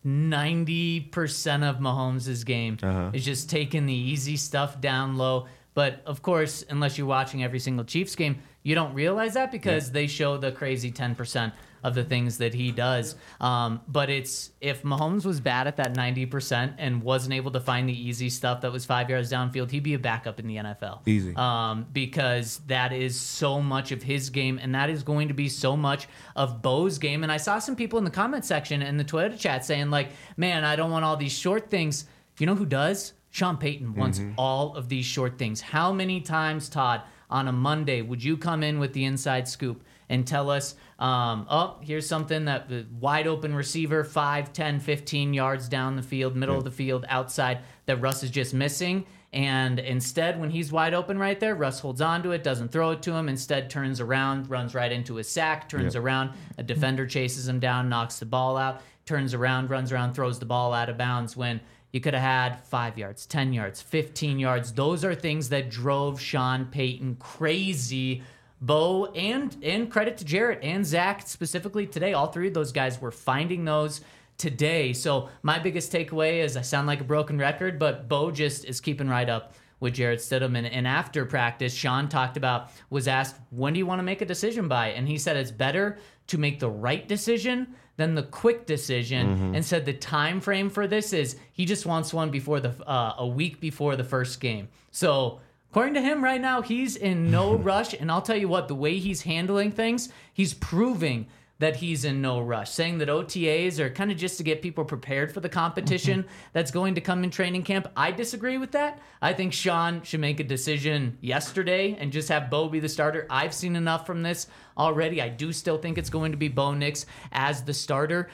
[SPEAKER 2] 90% of Mahomes' game is just taking the easy stuff down low. But of course, unless you're watching every single Chiefs game, you don't realize that because they show the crazy 10% of the things that he does. But it's, if Mahomes was bad at that 90% and wasn't able to find the easy stuff that was 5 yards downfield, he'd be a backup in the NFL.
[SPEAKER 4] Easy.
[SPEAKER 2] Because that is so much of his game, and that is going to be so much of Bo's game. And I saw some people in the comment section and the Twitter chat saying like, man, I don't want all these short things. You know who does? Sean Payton wants all of these short things. How many times, Todd, on a Monday would you come in with the inside scoop and tell us, here's something that the wide open receiver, 5, 10, 15 yards down the field, middle of the field, outside, that Russ is just missing. And instead, when he's wide open right there, Russ holds on to it, doesn't throw it to him, instead turns around, runs right into a sack, turns around, a defender chases him down, knocks the ball out, turns around, runs around, throws the ball out of bounds, when You could have had 5 yards, 10 yards, 15 yards. Those are things that drove Sean Payton crazy. Bo, and credit to Jarrett and Zach specifically today. All three of those guys were finding those today. So my biggest takeaway is I sound like a broken record, but Bo just is keeping right up with Jarrett Stidham. And after practice, Sean was asked, when do you want to make a decision by? And he said it's better to make the right decision than the quick decision, and said the time frame for this is he just wants one before a week before the first game. So according to him right now, he's in no rush. And I'll tell you what, the way he's handling things, he's proving that he's in no rush, saying that OTAs are kind of just to get people prepared for the competition that's going to come in training camp. I disagree with that. I think Sean should make a decision yesterday and just have Bo be the starter. I've seen enough from this already. I do still think it's going to be Bo Nix as the starter.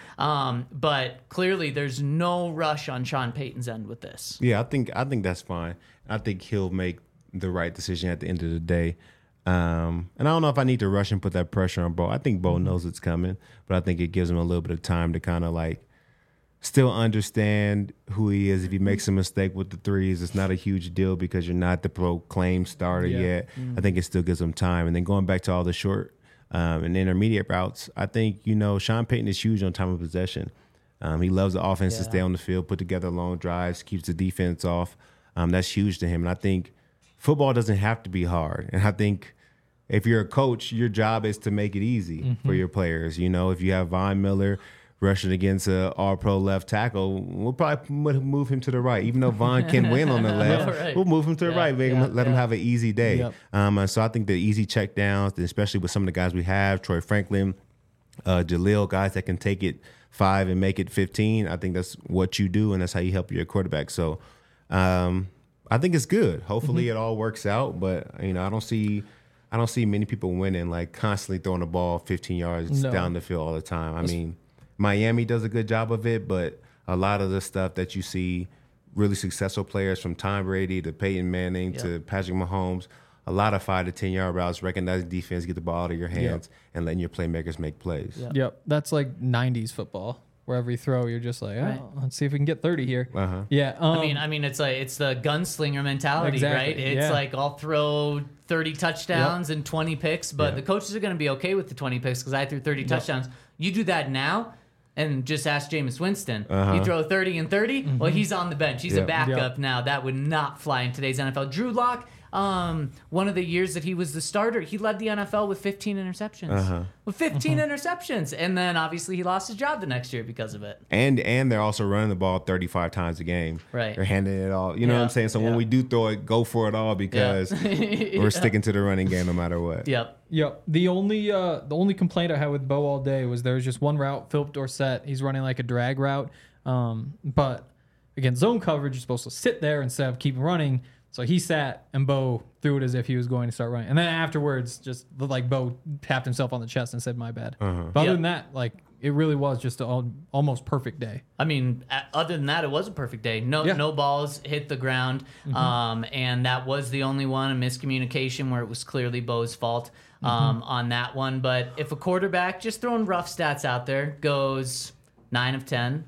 [SPEAKER 2] But clearly there's no rush on Sean Payton's end with this.
[SPEAKER 4] Yeah, I think that's fine. I think he'll make the right decision at the end of the day. And I don't know if I need to rush and put that pressure on Bo. I think Bo knows it's coming, but I think it gives him a little bit of time to kind of like still understand who he is. If he makes a mistake with the threes, it's not a huge deal because you're not the proclaimed starter yet. I think it still gives him time. And then going back to all the short and intermediate routes, I think, Sean Payton is huge on time of possession. He loves the offense to stay on the field, put together long drives, keeps the defense off. That's huge to him. And I think football doesn't have to be hard. And I think if you're a coach, your job is to make it easy for your players. If you have Von Miller rushing against an all-pro left tackle, we'll probably move him to the right. Even though Von can win on the left, we'll move him to the right, let him have an easy day. Yep. So I think the easy checkdowns, especially with some of the guys we have, Troy Franklin, Jaleel, guys that can take it 5 and make it 15, I think that's what you do, and that's how you help your quarterback. So I think it's good. Hopefully it all works out, but I don't see many people winning, like constantly throwing the ball 15 yards down the field all the time. I mean, Miami does a good job of it, but a lot of the stuff that you see really successful players from Tom Brady to Peyton Manning to Patrick Mahomes, a lot of 5 to 10 yard routes, recognizing defense, get the ball out of your hands, and letting your playmakers make plays.
[SPEAKER 3] Yep. That's like 90s football. Wherever you throw, you're just like, let's see if we can get 30 here. Yeah.
[SPEAKER 2] I mean, it's the gunslinger mentality, right? It's like I'll throw 30 touchdowns and 20 picks, but the coaches are going to be okay with the 20 picks because I threw 30 touchdowns. You do that now, and just ask Jameis Winston. You throw 30 and 30, well, he's on the bench. He's a backup now. That would not fly in today's NFL. Drew Lock. One of the years that he was the starter, he led the NFL with 15 interceptions. With 15 interceptions. And then obviously he lost his job the next year because of it.
[SPEAKER 4] And they're also running the ball 35 times a game.
[SPEAKER 2] Right.
[SPEAKER 4] They're handing it all. You know what I'm saying? So when we do throw it, go for it all because we're sticking to the running game no matter what.
[SPEAKER 3] Yep. The only complaint I had with Bo all day was there was just one route, Philip Dorsett. He's running like a drag route. But again, zone coverage, you're supposed to sit there instead of keep running. So he sat, and Bo threw it as if he was going to start running. And then afterwards, just like Bo tapped himself on the chest and said, "My bad." But other than that, like it really was just an almost perfect day.
[SPEAKER 2] I mean, other than that, it was a perfect day. No balls hit the ground, and that was the only one, a miscommunication where it was clearly Bo's fault on that one. But if a quarterback, just throwing rough stats out there, goes 9 of 10,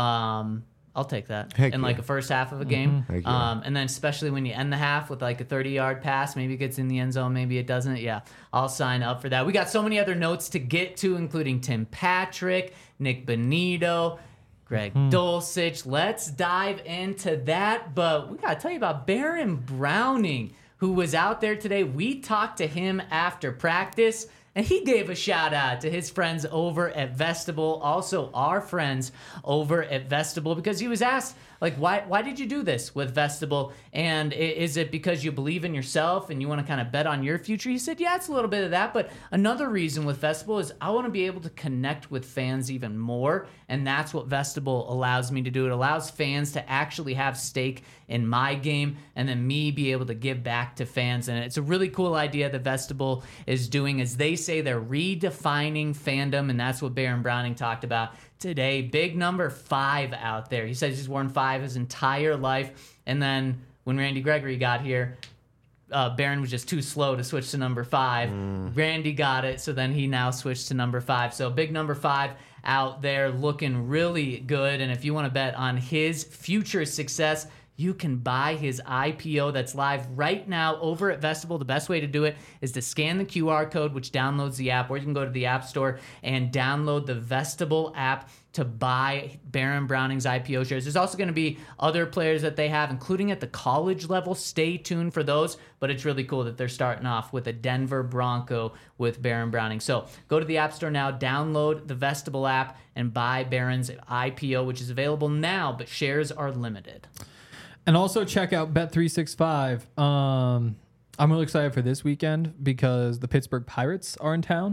[SPEAKER 2] I'll take that in like a first half of a game. And then especially when you end the half with like a 30-yard pass, maybe it gets in the end zone, maybe it doesn't. Yeah, I'll sign up for that. We got so many other notes to get to, including Tim Patrick, Nick Bonito, Greg Dulcich. Let's dive into that. But we got to tell you about Baron Browning, who was out there today. We talked to him after practice, and he gave a shout out to his friends over at Vestibule, also our friends over at Vestibule, because he was asked, like, why did you do this with Vestibule? And is it because you believe in yourself and you want to kind of bet on your future? He said, yeah, it's a little bit of that. But another reason with Vestibule is I want to be able to connect with fans even more. And that's what Vestibule allows me to do. It allows fans to actually have stake in my game and then me be able to give back to fans. And it's a really cool idea that Vestibule is doing. As they say, they're redefining fandom. And that's what Baron Browning talked about today. Big number 5 out there. He says he's worn 5 his entire life. And then when Randy Gregory got here, Baron was just too slow to switch to number 5. Randy got it, so then he now switched to number 5. So big number 5 out there looking really good. And if you want to bet on his future success, you can buy his IPO that's live right now over at Vestibule. The best way to do it is to scan the QR code, which downloads the app, or you can go to the App Store and download the Vestibule app to buy Baron Browning's IPO shares. There's also going to be other players that they have, including at the college level. Stay tuned for those, but it's really cool that they're starting off with a Denver Bronco with Baron Browning. So go to the App Store now, download the Vestibule app, and buy Baron's IPO, which is available now, but shares are limited.
[SPEAKER 3] And also check out Bet365. I'm really excited for this weekend because the Pittsburgh Pirates are in town.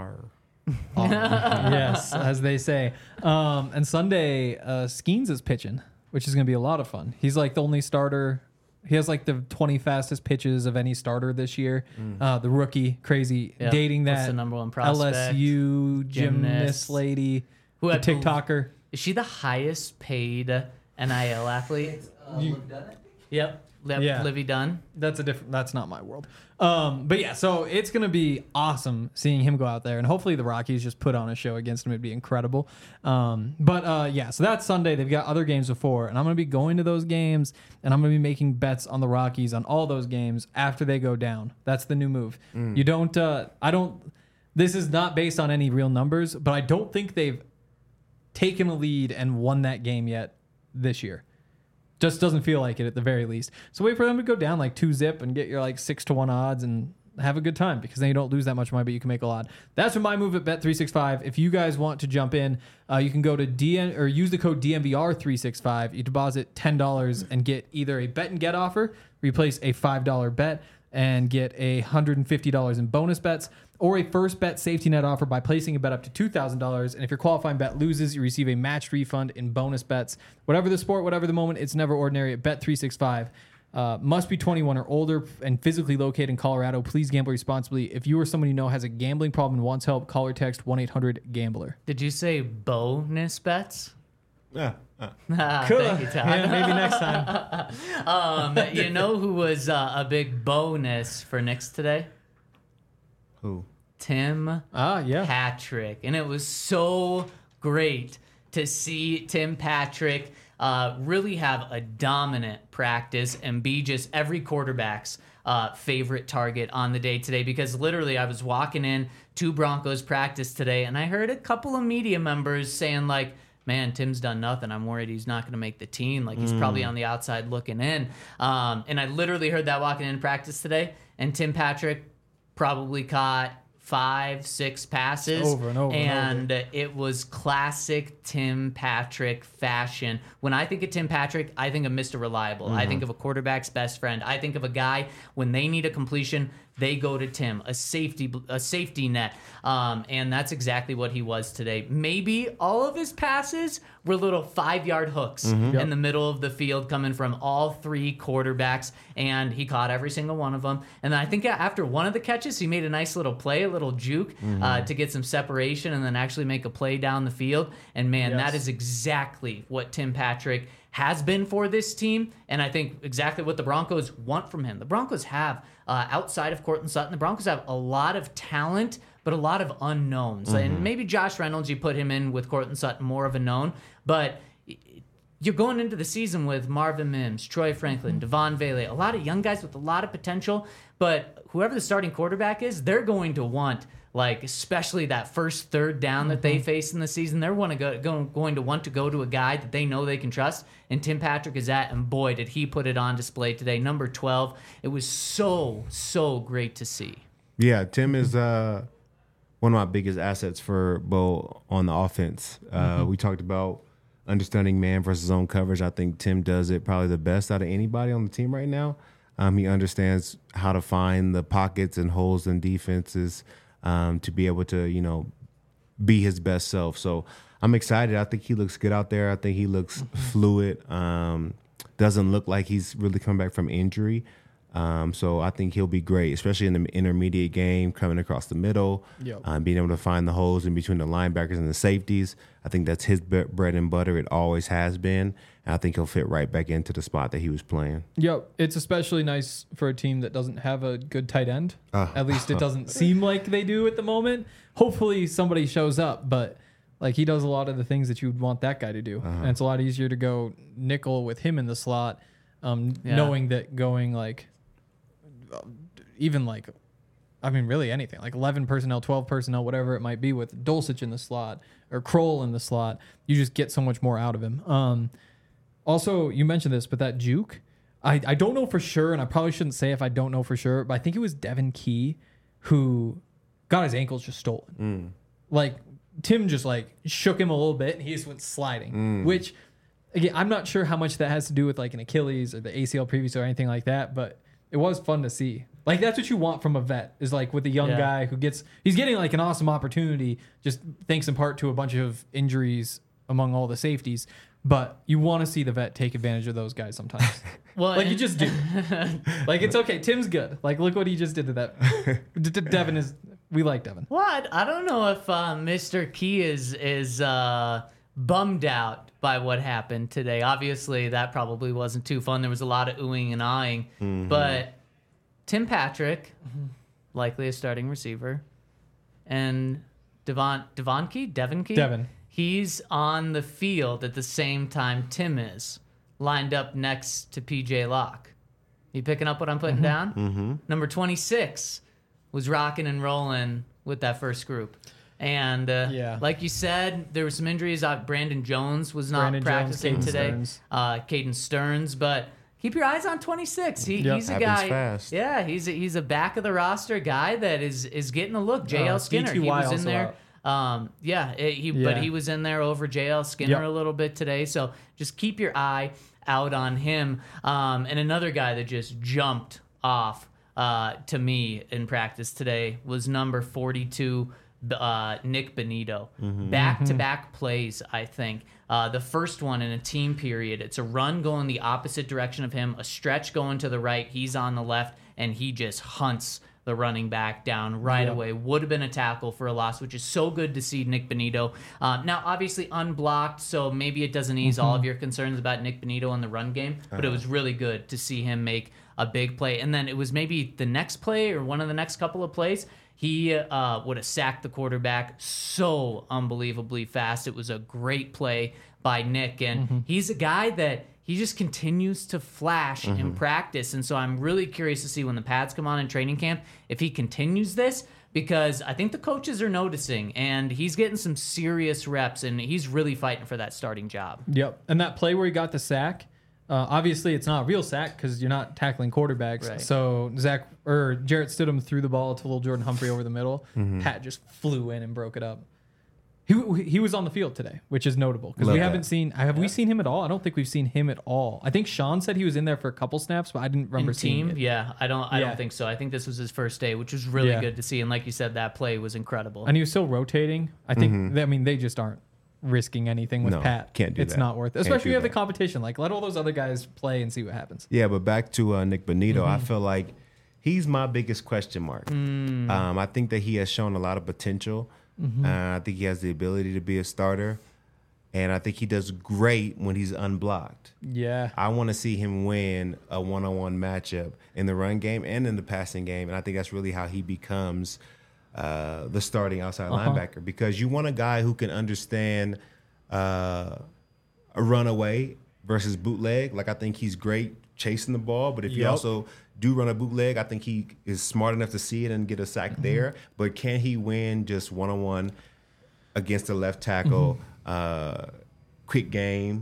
[SPEAKER 3] Yes, as they say. And Sunday, Skeens is pitching, which is going to be a lot of fun. He's like the only starter. He has like the 20 fastest pitches of any starter this year. The rookie, crazy,
[SPEAKER 2] Yep.
[SPEAKER 3] dating
[SPEAKER 2] What's
[SPEAKER 3] that
[SPEAKER 2] the number one prospect?
[SPEAKER 3] LSU gymnast lady,
[SPEAKER 2] Who
[SPEAKER 3] the
[SPEAKER 2] had-
[SPEAKER 3] TikToker.
[SPEAKER 2] Is she the highest paid NIL athlete? Yep.
[SPEAKER 3] Yeah.
[SPEAKER 2] Livy Dunn.
[SPEAKER 3] That's not my world. But yeah, so it's going to be awesome seeing him go out there, and hopefully the Rockies just put on a show against him. It'd be incredible. Yeah, so that's Sunday. They've got other games before, and I'm going to be going to those games, and I'm going to be making bets on the Rockies on all those games after they go down. That's the new move. You don't, this is not based on any real numbers, but I don't think they've taken a lead and won that game yet this year. Just doesn't feel like it at the very least. So wait for them to go down like 2-zip and get your like 6-1 odds and have a good time, because then you don't lose that much money, but you can make a lot. That's my move at Bet365. If you guys want to jump in, you can go to use the code DNVR365. You deposit $10 and get either a bet and get offer, replace a $5 bet, and get $150 in bonus bets, or a first bet safety net offer by placing a bet up to $2,000. And if your qualifying bet loses, you receive a matched refund in bonus bets. Whatever the sport, whatever the moment, it's never ordinary at Bet365. Must be 21 or older and physically located in Colorado. Please gamble responsibly. If you or someone you know has a gambling problem and wants help, call or text 1-800-GAMBLER.
[SPEAKER 2] Did you say bonus bets?
[SPEAKER 4] Yeah.
[SPEAKER 2] Thank you, Todd.
[SPEAKER 3] Yeah, maybe next time.
[SPEAKER 2] You know who was a big bonus for Knicks today?
[SPEAKER 4] Who?
[SPEAKER 2] Tim
[SPEAKER 3] Yeah.
[SPEAKER 2] Patrick. And it was so great to see Tim Patrick really have a dominant practice and be just every quarterback's favorite target on the day today, because literally I was walking in to Broncos practice today and I heard a couple of media members saying like, man, Tim's done nothing. I'm worried he's not going to make the team. Like he's probably on the outside looking in. And I literally heard that walking in practice today, and Tim Patrick probably caught 5-6 passes
[SPEAKER 3] Over and over and over.
[SPEAKER 2] it was classic Tim Patrick fashion. When I think of Tim Patrick, I think of Mr. Reliable. I think of a quarterback's best friend. I think of a guy, when they need a completion, they go to Tim, a safety net. And that's exactly what he was today. Maybe all of his passes were little 5-yard hooks in the middle of the field coming from all three quarterbacks, and he caught every single one of them. And then I think after one of the catches, he made a nice little play, a little juke to get some separation and then actually make a play down the field. And man, that is exactly what Tim Patrick has been for this team, and I think exactly what the Broncos want from him. The Broncos have, outside of Courtland Sutton, the Broncos have a lot of talent, but a lot of unknowns. And maybe Josh Reynolds, you put him in with Courtland Sutton, more of a known, but you're going into the season with Marvin Mims, Troy Franklin, Devon Vele, a lot of young guys with a lot of potential, but whoever the starting quarterback is, they're going to want, like, especially that first third down that they face in the season, they're going to want to go to a guy that they know they can trust, and Tim Patrick is that, and boy, did he put it on display today. Number 12, it was so great to see.
[SPEAKER 4] Yeah, Tim is one of my biggest assets for Bo on the offense. We talked about understanding man versus zone coverage. I think Tim does it probably the best out of anybody on the team right now. He understands how to find the pockets and holes in defenses to be able to, be his best self. So I'm excited. I think he looks good out there. I think he looks fluid. Doesn't look like he's really coming back from injury. So I think he'll be great, especially in the intermediate game, coming across the middle, being able to find the holes in between the linebackers and the safeties. I think that's his bread and butter. It always has been. And I think he'll fit right back into the spot that he was playing.
[SPEAKER 3] Yep. It's especially nice for a team that doesn't have a good tight end. At least it doesn't seem like they do at the moment. Hopefully somebody shows up, but Like he does a lot of the things that you would want that guy to do, and it's a lot easier to go nickel with him in the slot, knowing that going like even like. I mean, really anything like 11 personnel, 12 personnel, whatever it might be with Dulcich in the slot or Kroll in the slot, you just get so much more out of him. Also, you mentioned this, but that juke, I don't know for sure, and I probably shouldn't say if I don't know for sure, but I think it was Devin Key who got his ankles just stolen. Like Tim just like shook him a little bit and he just went sliding, which again, I'm not sure how much that has to do with like an Achilles or the ACL previous or anything like that, but it was fun to see. Like that's what you want from a vet is like with a young guy who he's getting like an awesome opportunity, just thanks in part to a bunch of injuries among all the safeties. But you want to see the vet take advantage of those guys sometimes.
[SPEAKER 2] Well,
[SPEAKER 3] like you just do. Like it's okay. Tim's good. Like look what he just did to that. Devin we like Devin.
[SPEAKER 2] What? I don't know if Mr. Key is bummed out by what happened today. Obviously, that probably wasn't too fun. There was a lot of oohing and eyeing. But Tim Patrick, likely a starting receiver, and Devin Key? He's on the field at the same time Tim is, lined up next to PJ Locke. You picking up what I'm putting down? Number 26 was rocking and rolling with that first group. And like you said, there were some injuries. Brandon Jones was not practicing today. Caden Stearns. But keep your eyes on 26. He's a guy. Fast. Yeah, he's a back of the roster guy that is getting a look. JL Skinner, he was in there. But he was in there over JL Skinner a little bit today. So just keep your eye out on him. And another guy that just jumped off to me in practice today was number 42. Nick Benito. Back-to-back plays, I think. The first one in a team period, it's a run going the opposite direction of him, a stretch going to the right, he's on the left, and he just hunts the running back down right away. Would have been a tackle for a loss, which is so good to see Nick Benito. Now, obviously unblocked, so maybe it doesn't ease all of your concerns about Nick Benito in the run game, but it was really good to see him make a big play. And then it was maybe the next play or one of the next couple of plays, he would have sacked the quarterback so unbelievably fast. It was a great play by Nick, and he's a guy that he just continues to flash in practice. And so I'm really curious to see when the pads come on in training camp if he continues this, because I think the coaches are noticing, and he's getting some serious reps, and he's really fighting for that starting job.
[SPEAKER 3] Yep. And that play where he got the sack, obviously it's not a real sack because you're not tackling quarterbacks. Right. So Jarrett Stidham threw the ball to little Jordan Humphrey over the middle. Pat just flew in and broke it up. He was on the field today, which is notable because we haven't seen. Have we seen him at all? I don't think we've seen him at all. I think Sean said he was in there for a couple snaps, but I didn't remember seeing it.
[SPEAKER 2] Yeah, I don't think so. I think this was his first day, which was really good to see. And like you said, that play was incredible.
[SPEAKER 3] And he was still rotating. I think. They just aren't risking anything with Pat.
[SPEAKER 4] Can't do that.
[SPEAKER 3] It's not worth it. Especially when you have the competition. Like let all those other guys play and see what happens.
[SPEAKER 4] Yeah, but back to Nick Benito, I feel like he's my biggest question mark. I think that he has shown a lot of potential. I think he has the ability to be a starter, and I think he does great when he's unblocked.
[SPEAKER 3] Yeah.
[SPEAKER 4] I want to see him win a one-on-one matchup in the run game and in the passing game, and I think that's really how he becomes the starting outside linebacker, because you want a guy who can understand a runaway versus bootleg. Like I think he's great chasing the ball, but if you also do run a bootleg, I think he is smart enough to see it and get a sack there. But can he win just one-on-one against the left tackle, quick game,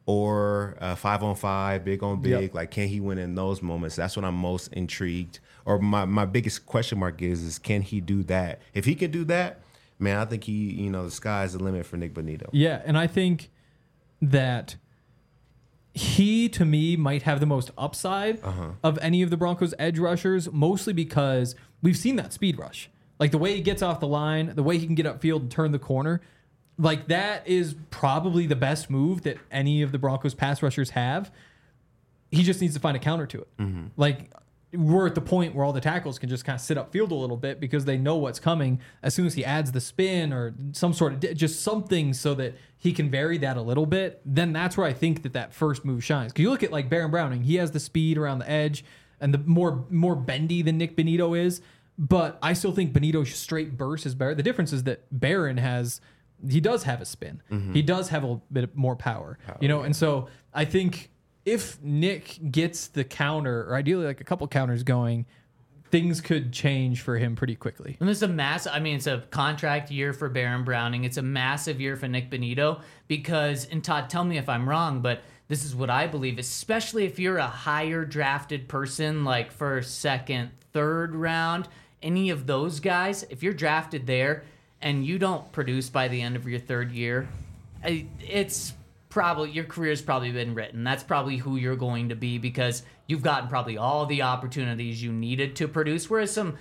[SPEAKER 4] or 5-on-5, big on big? Yep. Like, can he win in those moments? That's what I'm most intrigued. Or my biggest question mark is can he do that? If he can do that, man, I think the sky's the limit for Nick Benito.
[SPEAKER 3] Yeah, and I think that he, to me, might have the most upside of any of the Broncos' edge rushers, mostly because we've seen that speed rush. Like the way he gets off the line, the way he can get upfield and turn the corner, like that is probably the best move that any of the Broncos' pass rushers have. He just needs to find a counter to it. Like we're at the point where all the tackles can just kind of sit upfield a little bit because they know what's coming. As soon as he adds the spin or some sort of just something so that he can vary that a little bit, then that's where I think that first move shines. Because you look at like Baron Browning, he has the speed around the edge and the more bendy than Nick Benito is. But I still think Benito's straight burst is better. The difference is that Barron has he does have a spin. He does have a bit more power, you know. And so I think if Nick gets the counter, or ideally like a couple counters going, things could change for him pretty quickly.
[SPEAKER 2] And it's it's a contract year for Baron Browning. It's a massive year for Nick Bonito because, and Todd, tell me if I'm wrong, but this is what I believe, especially if you're a higher drafted person, like first, second, third round, any of those guys, if you're drafted there and you don't produce by the end of your third year, it's probably, your career's probably been written. That's probably who you're going to be because you've gotten probably all the opportunities you needed to produce. Whereas some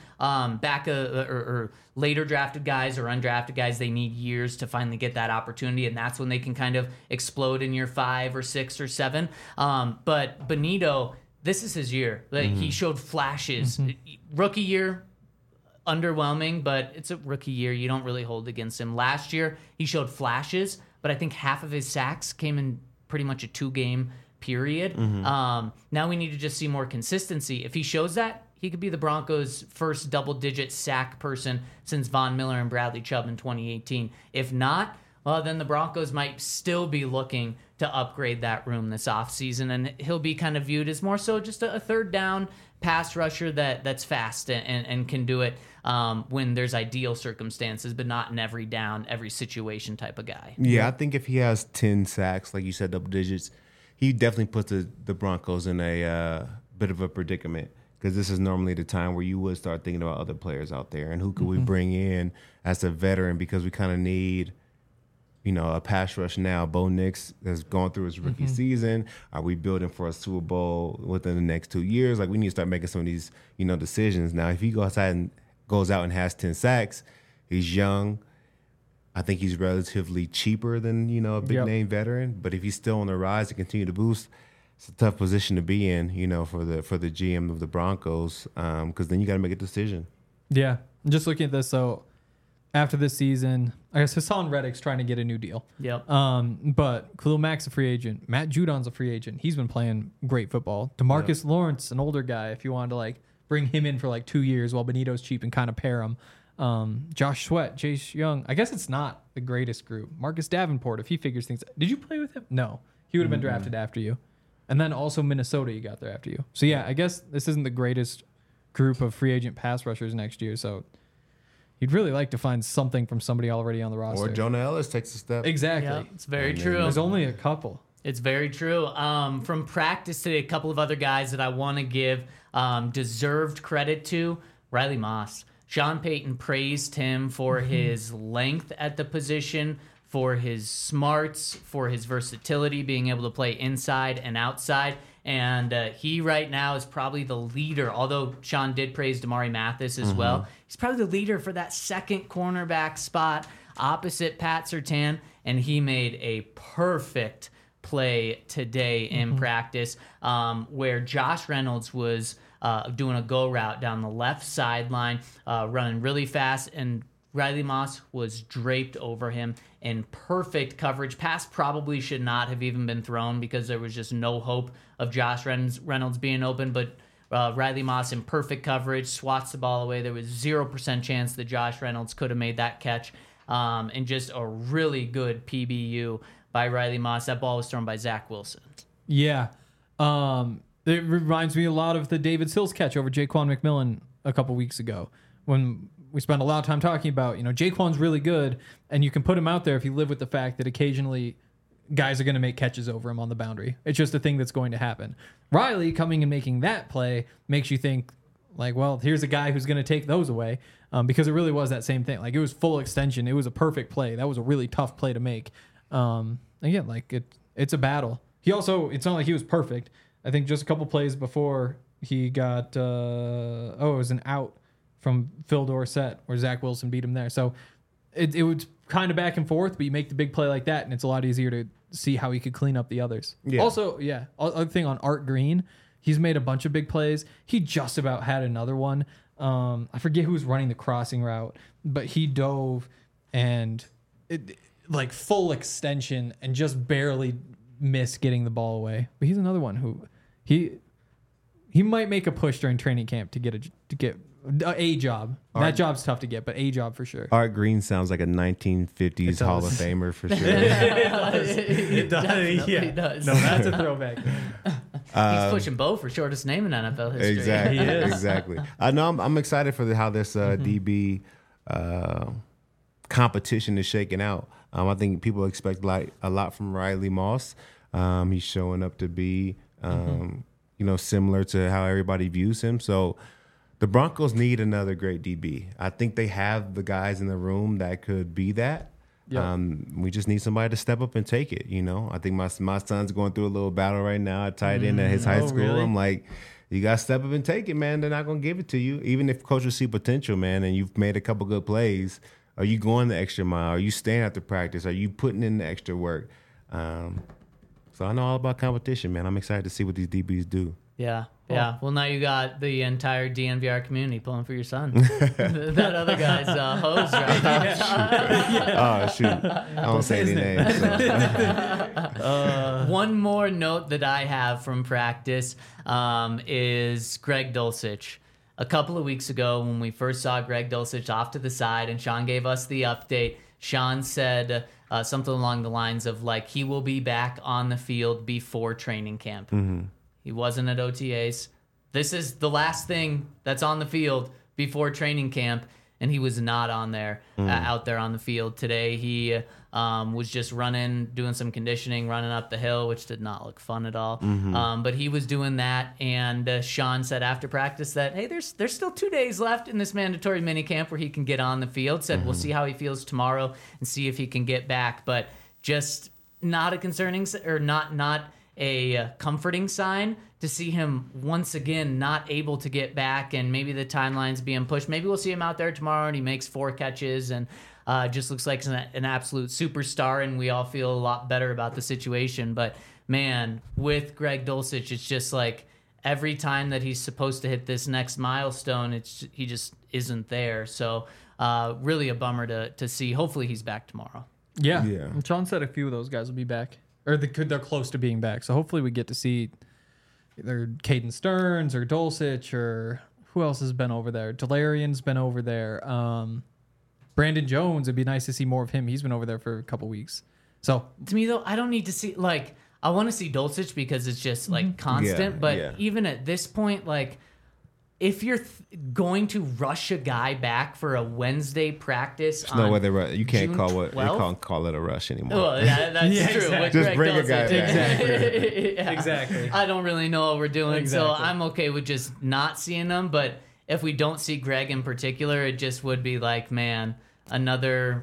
[SPEAKER 2] or later drafted guys or undrafted guys, they need years to finally get that opportunity, and that's when they can kind of explode in year 5 or 6 or 7. But Bonito, this is his year. Like, he showed flashes. Rookie year, underwhelming, but it's a rookie year. You don't really hold against him. Last year, he showed flashes, but I think half of his sacks came in pretty much a 2-game period. Now we need to just see more consistency. If he shows that, he could be the Broncos' first double-digit sack person since Von Miller and Bradley Chubb in 2018. If not, well, then the Broncos might still be looking to upgrade that room this offseason, and he'll be kind of viewed as more so just a third down pass rusher that's fast and can do it when there's ideal circumstances, but not in every down, every situation type of guy.
[SPEAKER 4] Yeah, I think if he has 10 sacks, like you said, double digits, he definitely puts the Broncos in a bit of a predicament because this is normally the time where you would start thinking about other players out there and who could we bring in as a veteran because we kind of need, a pass rush now. Bo Nix has gone through his rookie season. Are we building for a Super Bowl within the next 2 years? Like, we need to start making some of these, decisions. Now, if he goes out and has 10 sacks, he's young. I think he's relatively cheaper than, a big-name veteran. But if he's still on the rise and continue to boost, it's a tough position to be in, for the GM of the Broncos, because then you got to make a decision.
[SPEAKER 3] Yeah. Just looking at this, so after this season, I guess Hassan Reddick's trying to get a new deal.
[SPEAKER 2] Yep.
[SPEAKER 3] But Khalil Mack's a free agent. Matt Judon's a free agent. He's been playing great football. DeMarcus Lawrence, an older guy, if you wanted to bring him in for 2 years while Benito's cheap and kind of pair him. Josh Sweat, Chase Young. I guess it's not the greatest group. Marcus Davenport, if he figures things out. Did you play with him? No. He would have been drafted after you. And then also Minnesota, you got there after you. So, yeah, I guess this isn't the greatest group of free agent pass rushers next year. So you'd really like to find something from somebody already on the roster.
[SPEAKER 4] Or Jonah Ellis takes a step.
[SPEAKER 3] Exactly.
[SPEAKER 2] Yeah, it's very true.
[SPEAKER 3] There's only a couple.
[SPEAKER 2] It's very true. From practice today, a couple of other guys that I want to give deserved credit to. Riley Moss. Sean Payton praised him for his length at the position, for his smarts, for his versatility, being able to play inside and outside. And he right now is probably the leader, although Sean did praise Damari Mathis as well. He's probably the leader for that second cornerback spot opposite Pat Surtain, and he made a perfect play today in practice where Josh Reynolds was doing a go route down the left sideline, running really fast, and Riley Moss was draped over him in perfect coverage. Pass probably should not have even been thrown because there was just no hope of Josh Reynolds being open, but Riley Moss in perfect coverage swats the ball away. There was 0% chance that Josh Reynolds could have made that catch, and just a really good PBU by Riley Moss. That ball was thrown by Zach Wilson.
[SPEAKER 3] Yeah. It reminds me a lot of the David Sills catch over Jaquan McMillan a couple weeks ago when we spent a lot of time talking about, Jaquan's really good, and you can put him out there if you live with the fact that occasionally guys are going to make catches over him on the boundary. It's just a thing that's going to happen. Riley coming and making that play makes you think, well, here's a guy who's going to take those away, because it really was that same thing. It was full extension. It was a perfect play. That was a really tough play to make. Again, it's a battle. He also, it's not like he was perfect. I think just a couple plays before he got, it was an out from Phil Dorsett where Zach Wilson beat him there. So it was kind of back and forth, but you make the big play like that, and it's a lot easier to see how he could clean up the others. Yeah. Also, other thing on Art Green, he's made a bunch of big plays. He just about had another one. I forget who was running the crossing route, but he dove and full extension and just barely missed getting the ball away. But he's another one who he might make a push during training camp to get A job. That job's tough to get, but a job for sure.
[SPEAKER 4] Art Green sounds like a 1950s Hall of Famer for sure.
[SPEAKER 3] It does.
[SPEAKER 2] Definitely does.
[SPEAKER 3] No, that's a throwback.
[SPEAKER 2] He's pushing Bo for shortest name in NFL history.
[SPEAKER 4] Exactly.
[SPEAKER 3] He is.
[SPEAKER 4] Exactly. I know. I'm excited for how this DB competition is shaking out. I think people expect like a lot from Riley Moss. He's showing up to be, similar to how everybody views him. So the Broncos need another great DB. I think they have the guys in the room that could be that.
[SPEAKER 3] Yep.
[SPEAKER 4] We just need somebody to step up and take it. I think my son's going through a little battle right now at tight end at his high school.
[SPEAKER 3] Really?
[SPEAKER 4] I'm like, you got to step up and take it, man. They're not going to give it to you. Even if coaches see potential, man, and you've made a couple good plays, are you going the extra mile? Are you staying after practice? Are you putting in the extra work? So I know all about competition, man. I'm excited to see what these DBs do.
[SPEAKER 2] Yeah. Yeah. Well, now you got the entire DNVR community pulling for your son. That other guy's hose right now.
[SPEAKER 4] Oh, shoot. I don't say any names. So.
[SPEAKER 2] One more note that I have from practice is Greg Dulcich. A couple of weeks ago, when we first saw Greg Dulcich off to the side and Sean gave us the update, Sean said something along the lines of, like, he will be back on the field before training camp.
[SPEAKER 4] Mm-hmm.
[SPEAKER 2] He wasn't at OTAs. This is the last thing that's on the field before training camp, and he was not on there, out there on the field today. He was just doing some conditioning, running up the hill, which did not look fun at all. But he was doing that, and Sean said after practice that, hey, there's still 2 days left in this mandatory minicamp where he can get on the field. Said we'll see how he feels tomorrow and see if he can get back, but just not a concerning or not a comforting sign to see him once again not able to get back, and maybe the timeline's being pushed. Maybe we'll see him out there tomorrow and he makes 4 catches and just looks like an absolute superstar, and we all feel a lot better about the situation. But man, with Greg Dulcich, it's just like every time that he's supposed to hit this next milestone, he just isn't there. So really a bummer to see. Hopefully he's back tomorrow.
[SPEAKER 3] Yeah.
[SPEAKER 4] Yeah.
[SPEAKER 3] And Sean said a few of those guys will be back. Or they're close to being back. So hopefully we get to see either Caden Stearns or Dulcich or who else has been over there. Delarian's been over there. Brandon Jones, it'd be nice to see more of him. He's been over there for a couple weeks. So
[SPEAKER 2] To me, though, I don't need to see, like, I want to see Dulcich because it's just, like, constant.
[SPEAKER 4] Yeah,
[SPEAKER 2] but
[SPEAKER 4] yeah.
[SPEAKER 2] even at this point, like, if you're going to rush a guy back for a Wednesday practice
[SPEAKER 4] There's no way you can't
[SPEAKER 2] June
[SPEAKER 4] call it a rush anymore.
[SPEAKER 2] Well, that's
[SPEAKER 3] Yeah,
[SPEAKER 2] true.
[SPEAKER 3] exactly.
[SPEAKER 2] With
[SPEAKER 4] Just
[SPEAKER 2] Greg
[SPEAKER 4] bring a guy
[SPEAKER 2] Dulcich.
[SPEAKER 4] back.
[SPEAKER 2] Yeah.
[SPEAKER 3] Exactly.
[SPEAKER 2] I don't really know what we're doing, so
[SPEAKER 3] Exactly.
[SPEAKER 2] I'm okay with just not seeing them. But if we don't see Greg in particular, it just would be like, man, another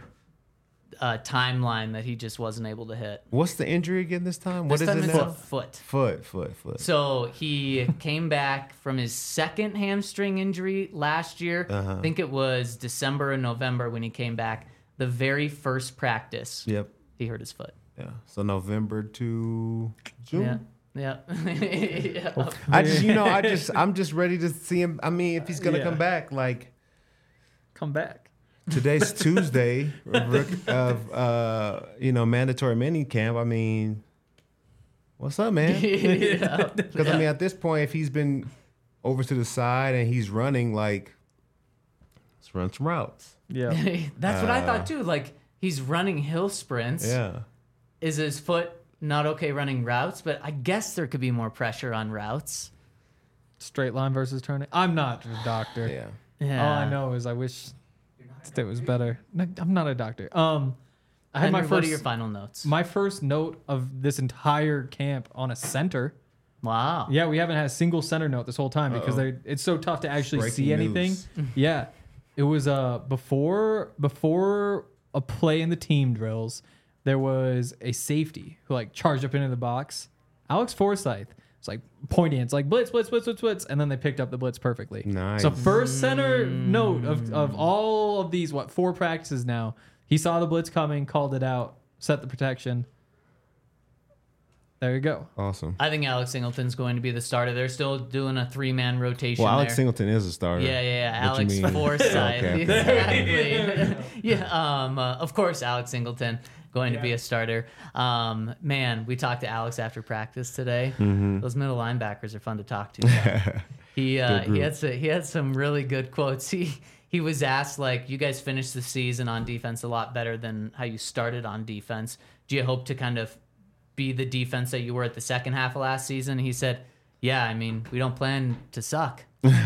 [SPEAKER 2] timeline that he just wasn't able to hit.
[SPEAKER 4] What's the injury again this time? What
[SPEAKER 2] This
[SPEAKER 4] is
[SPEAKER 2] time
[SPEAKER 4] it
[SPEAKER 2] it's
[SPEAKER 4] now?
[SPEAKER 2] a foot.
[SPEAKER 4] Foot.
[SPEAKER 2] So he came back from his second hamstring injury last year. I think it was December or November when he came back. The very first practice,
[SPEAKER 4] Yep.
[SPEAKER 2] he hurt his foot.
[SPEAKER 4] Yeah. So November to June.
[SPEAKER 2] Yeah. Yeah.
[SPEAKER 4] I'm just ready to see him. I mean, if he's gonna
[SPEAKER 3] Yeah.
[SPEAKER 4] come back, like
[SPEAKER 3] come baback.
[SPEAKER 4] today's Tuesday of mandatory mini camp. I mean, what's up, man?
[SPEAKER 2] Yeah.
[SPEAKER 4] Because I mean, at this point, if he's been over to the side and he's running, like, let's run some routes.
[SPEAKER 3] Yeah.
[SPEAKER 2] That's what I thought too. Like, he's running hill sprints.
[SPEAKER 4] Yeah.
[SPEAKER 2] Is his foot not okay running routes? But I guess there could be more pressure on routes.
[SPEAKER 3] Straight line versus turning. I'm not a doctor.
[SPEAKER 4] Yeah.
[SPEAKER 2] Yeah.
[SPEAKER 3] All I know is I wish it was better. No, I'm not a doctor. I had
[SPEAKER 2] Henry,
[SPEAKER 3] my
[SPEAKER 2] what are
[SPEAKER 3] first
[SPEAKER 2] your final notes?
[SPEAKER 3] my first note of this entire camp on a center.
[SPEAKER 2] Wow.
[SPEAKER 3] Yeah, we haven't had a single center note this whole time because it's so tough to actually
[SPEAKER 4] Breaking
[SPEAKER 3] see anything.
[SPEAKER 4] news.
[SPEAKER 3] Yeah, it was before a play in the team drills, there was a safety who like charged up into the box. Alex Forsyth. It's like pointing. It's like blitz, and then they picked up the blitz perfectly.
[SPEAKER 4] Nice.
[SPEAKER 3] So first center note of all of these 4 practices now. He saw the blitz coming, called it out, set the protection. There you go.
[SPEAKER 4] Awesome.
[SPEAKER 2] I think Alex Singleton's going to be the starter. They're still doing a 3-man rotation.
[SPEAKER 4] Well, Alex
[SPEAKER 2] there.
[SPEAKER 4] Singleton is a starter.
[SPEAKER 2] Yeah.
[SPEAKER 4] What you
[SPEAKER 2] Alex
[SPEAKER 4] mean?
[SPEAKER 2] Forsyth.
[SPEAKER 4] Okay.
[SPEAKER 2] Exactly. Yeah. Of course, Alex Singleton going to be a starter. Man, we talked to Alex after practice today.
[SPEAKER 4] Mm-hmm.
[SPEAKER 2] Those middle linebackers are fun to talk to. He had some really good quotes. He was asked, like, you guys finished the season on defense a lot better than how you started on defense. Do you hope to kind of be the defense that you were at the second half of last season? He said, yeah, I mean, we don't plan to suck.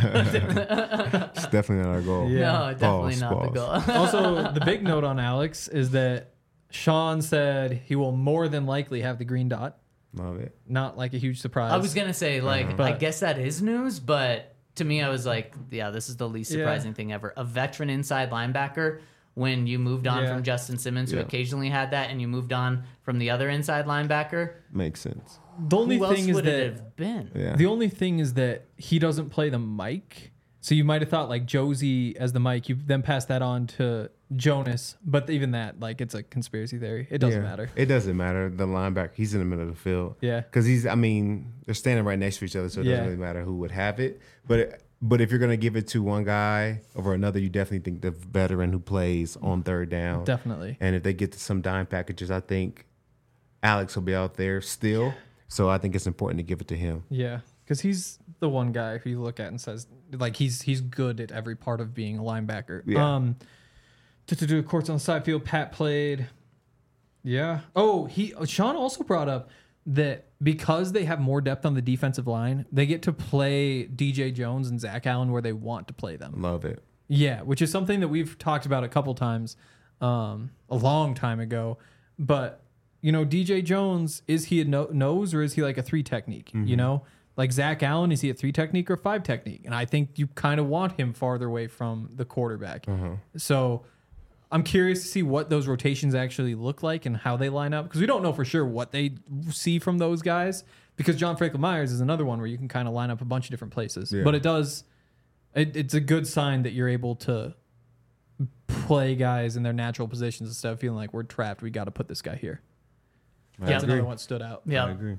[SPEAKER 4] It's definitely not our goal.
[SPEAKER 3] Yeah.
[SPEAKER 2] No, definitely not the goal.
[SPEAKER 3] Also, the big note on Alex is that Sean said he will more than likely have the green dot.
[SPEAKER 4] Love it.
[SPEAKER 3] Not like a huge surprise.
[SPEAKER 2] I was going to say, like,
[SPEAKER 3] But-
[SPEAKER 2] I guess that is news, but to me, I was like, yeah, this is the least surprising thing ever. A veteran inside linebacker, when you moved on from Justin Simmons, who occasionally had that, and you moved on from the other inside linebacker,
[SPEAKER 4] Makes sense.
[SPEAKER 3] The only
[SPEAKER 2] who
[SPEAKER 3] thing
[SPEAKER 2] else
[SPEAKER 3] is
[SPEAKER 2] would
[SPEAKER 3] that
[SPEAKER 2] it have been?
[SPEAKER 4] Yeah.
[SPEAKER 3] the only thing is that he doesn't play the mic. So you might have thought like Josie as the mic. You then pass that on to Jonas, but even that, like, it's a conspiracy theory. It doesn't matter.
[SPEAKER 4] It doesn't matter. The linebacker, he's in the middle of the field.
[SPEAKER 3] Yeah.
[SPEAKER 4] Because they're standing right next to each other, so it doesn't really matter who would have it. But if you're going to give it to one guy over another, you definitely think the veteran who plays on third down.
[SPEAKER 3] Definitely.
[SPEAKER 4] And if they get to some dime packages, I think Alex will be out there still. So I think it's important to give it to him.
[SPEAKER 3] Yeah, because he's the one guy who you look at and says, like, he's good at every part of being a linebacker.
[SPEAKER 4] Yeah.
[SPEAKER 3] To do courts on the side field, Pat played. Yeah. Oh, Sean also brought up that because they have more depth on the defensive line, they get to play DJ Jones and Zach Allen where they want to play them.
[SPEAKER 4] Love it.
[SPEAKER 3] Yeah, which is something that we've talked about a couple times, a long time ago. But, you know, DJ Jones, is he a nose or is he like a 3 technique? You know, like Zach Allen, is he a 3 technique or 5 technique? And I think you kind of want him farther away from the quarterback. So I'm curious to see what those rotations actually look like and how they line up, because we don't know for sure what they see from those guys, because John Franklin Myers is another one where you can kind of line up a bunch of different places.
[SPEAKER 4] Yeah.
[SPEAKER 3] But it's a good sign that you're able to play guys in their natural positions instead of feeling like we're trapped. We got to put this guy here. That's another one that stood out.
[SPEAKER 2] Yeah.
[SPEAKER 4] I agree.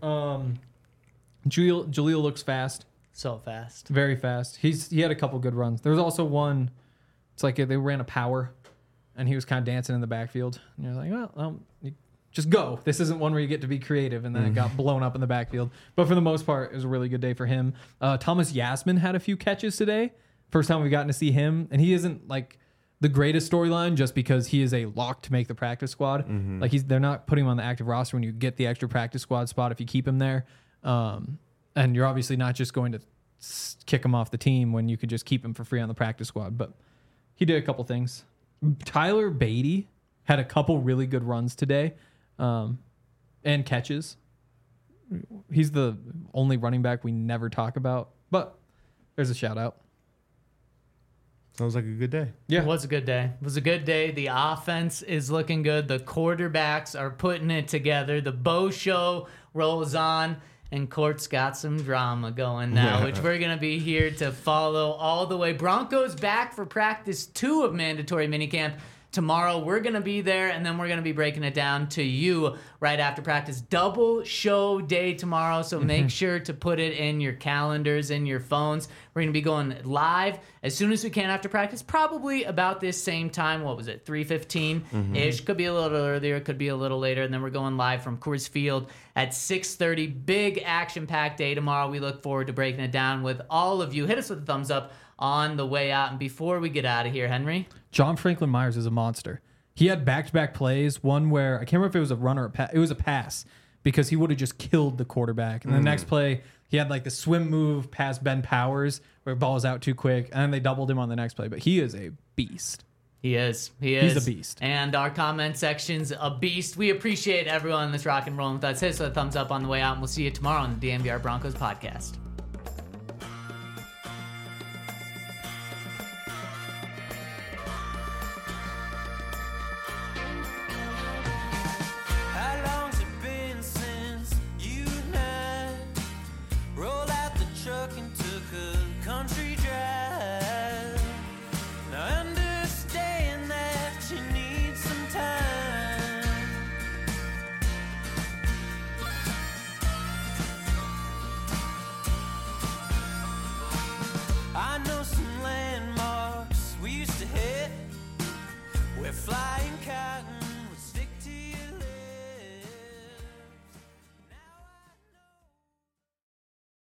[SPEAKER 3] Jaleel looks fast,
[SPEAKER 2] So fast.
[SPEAKER 3] very fast. He had a couple good runs. There was also one. It's like they ran a power, and he was kind of dancing in the backfield. And you're like, well, you just go. This isn't one where you get to be creative, and then it got blown up in the backfield. But for the most part, it was a really good day for him. Thomas Yasmin had a few catches today. First time we've gotten to see him, and he isn't like the greatest storyline just because he is a lock to make the practice squad. Like they're not putting him on the active roster when you get the extra practice squad spot if you keep him there. And you're obviously not just going to kick him off the team when you could just keep him for free on the practice squad. But he did a couple things. Tyler Beatty had a couple really good runs today, and catches. He's the only running back we never talk about, but there's a shout out.
[SPEAKER 4] Sounds like a good day.
[SPEAKER 3] Yeah.
[SPEAKER 2] It was a good day. It was a good day. The offense is looking good. The quarterbacks are putting it together. The Bo show rolls on, and Court's got some drama going now, which we're going to be here to follow all the way. Broncos back for practice 2 of mandatory minicamp. Tomorrow, we're going to be there, and then we're going to be breaking it down to you right after practice. Double show day tomorrow, so make sure to put it in your calendars, in your phones. We're going to be going live as soon as we can after practice, probably about this same time. What was it, 3:15-ish? Could be a little earlier, could be a little later, and then we're going live from Coors Field at 6:30. Big action-packed day tomorrow. We look forward to breaking it down with all of you. Hit us with a thumbs up on the way out. And before we get out of here, Henry,
[SPEAKER 3] John Franklin Myers is a monster. He had back-to-back plays, one where, I can't remember if it was a run or a pass. It was a pass because he would have just killed the quarterback. And the next play, he had like the swim move past Ben Powers where the ball was out too quick, and then they doubled him on the next play. But he is a beast.
[SPEAKER 2] He is.
[SPEAKER 3] He's a beast.
[SPEAKER 2] And our comment section's a beast. We appreciate everyone that's rock and rolling with us. Hit us with a thumbs up on the way out, and we'll see you tomorrow on the DNVR Broncos podcast.
[SPEAKER 1] How long's it been since you and I rolled out the truck and took a country drive? Now understand that you need some time. I know some landmarks we used to hit. We're flying cotton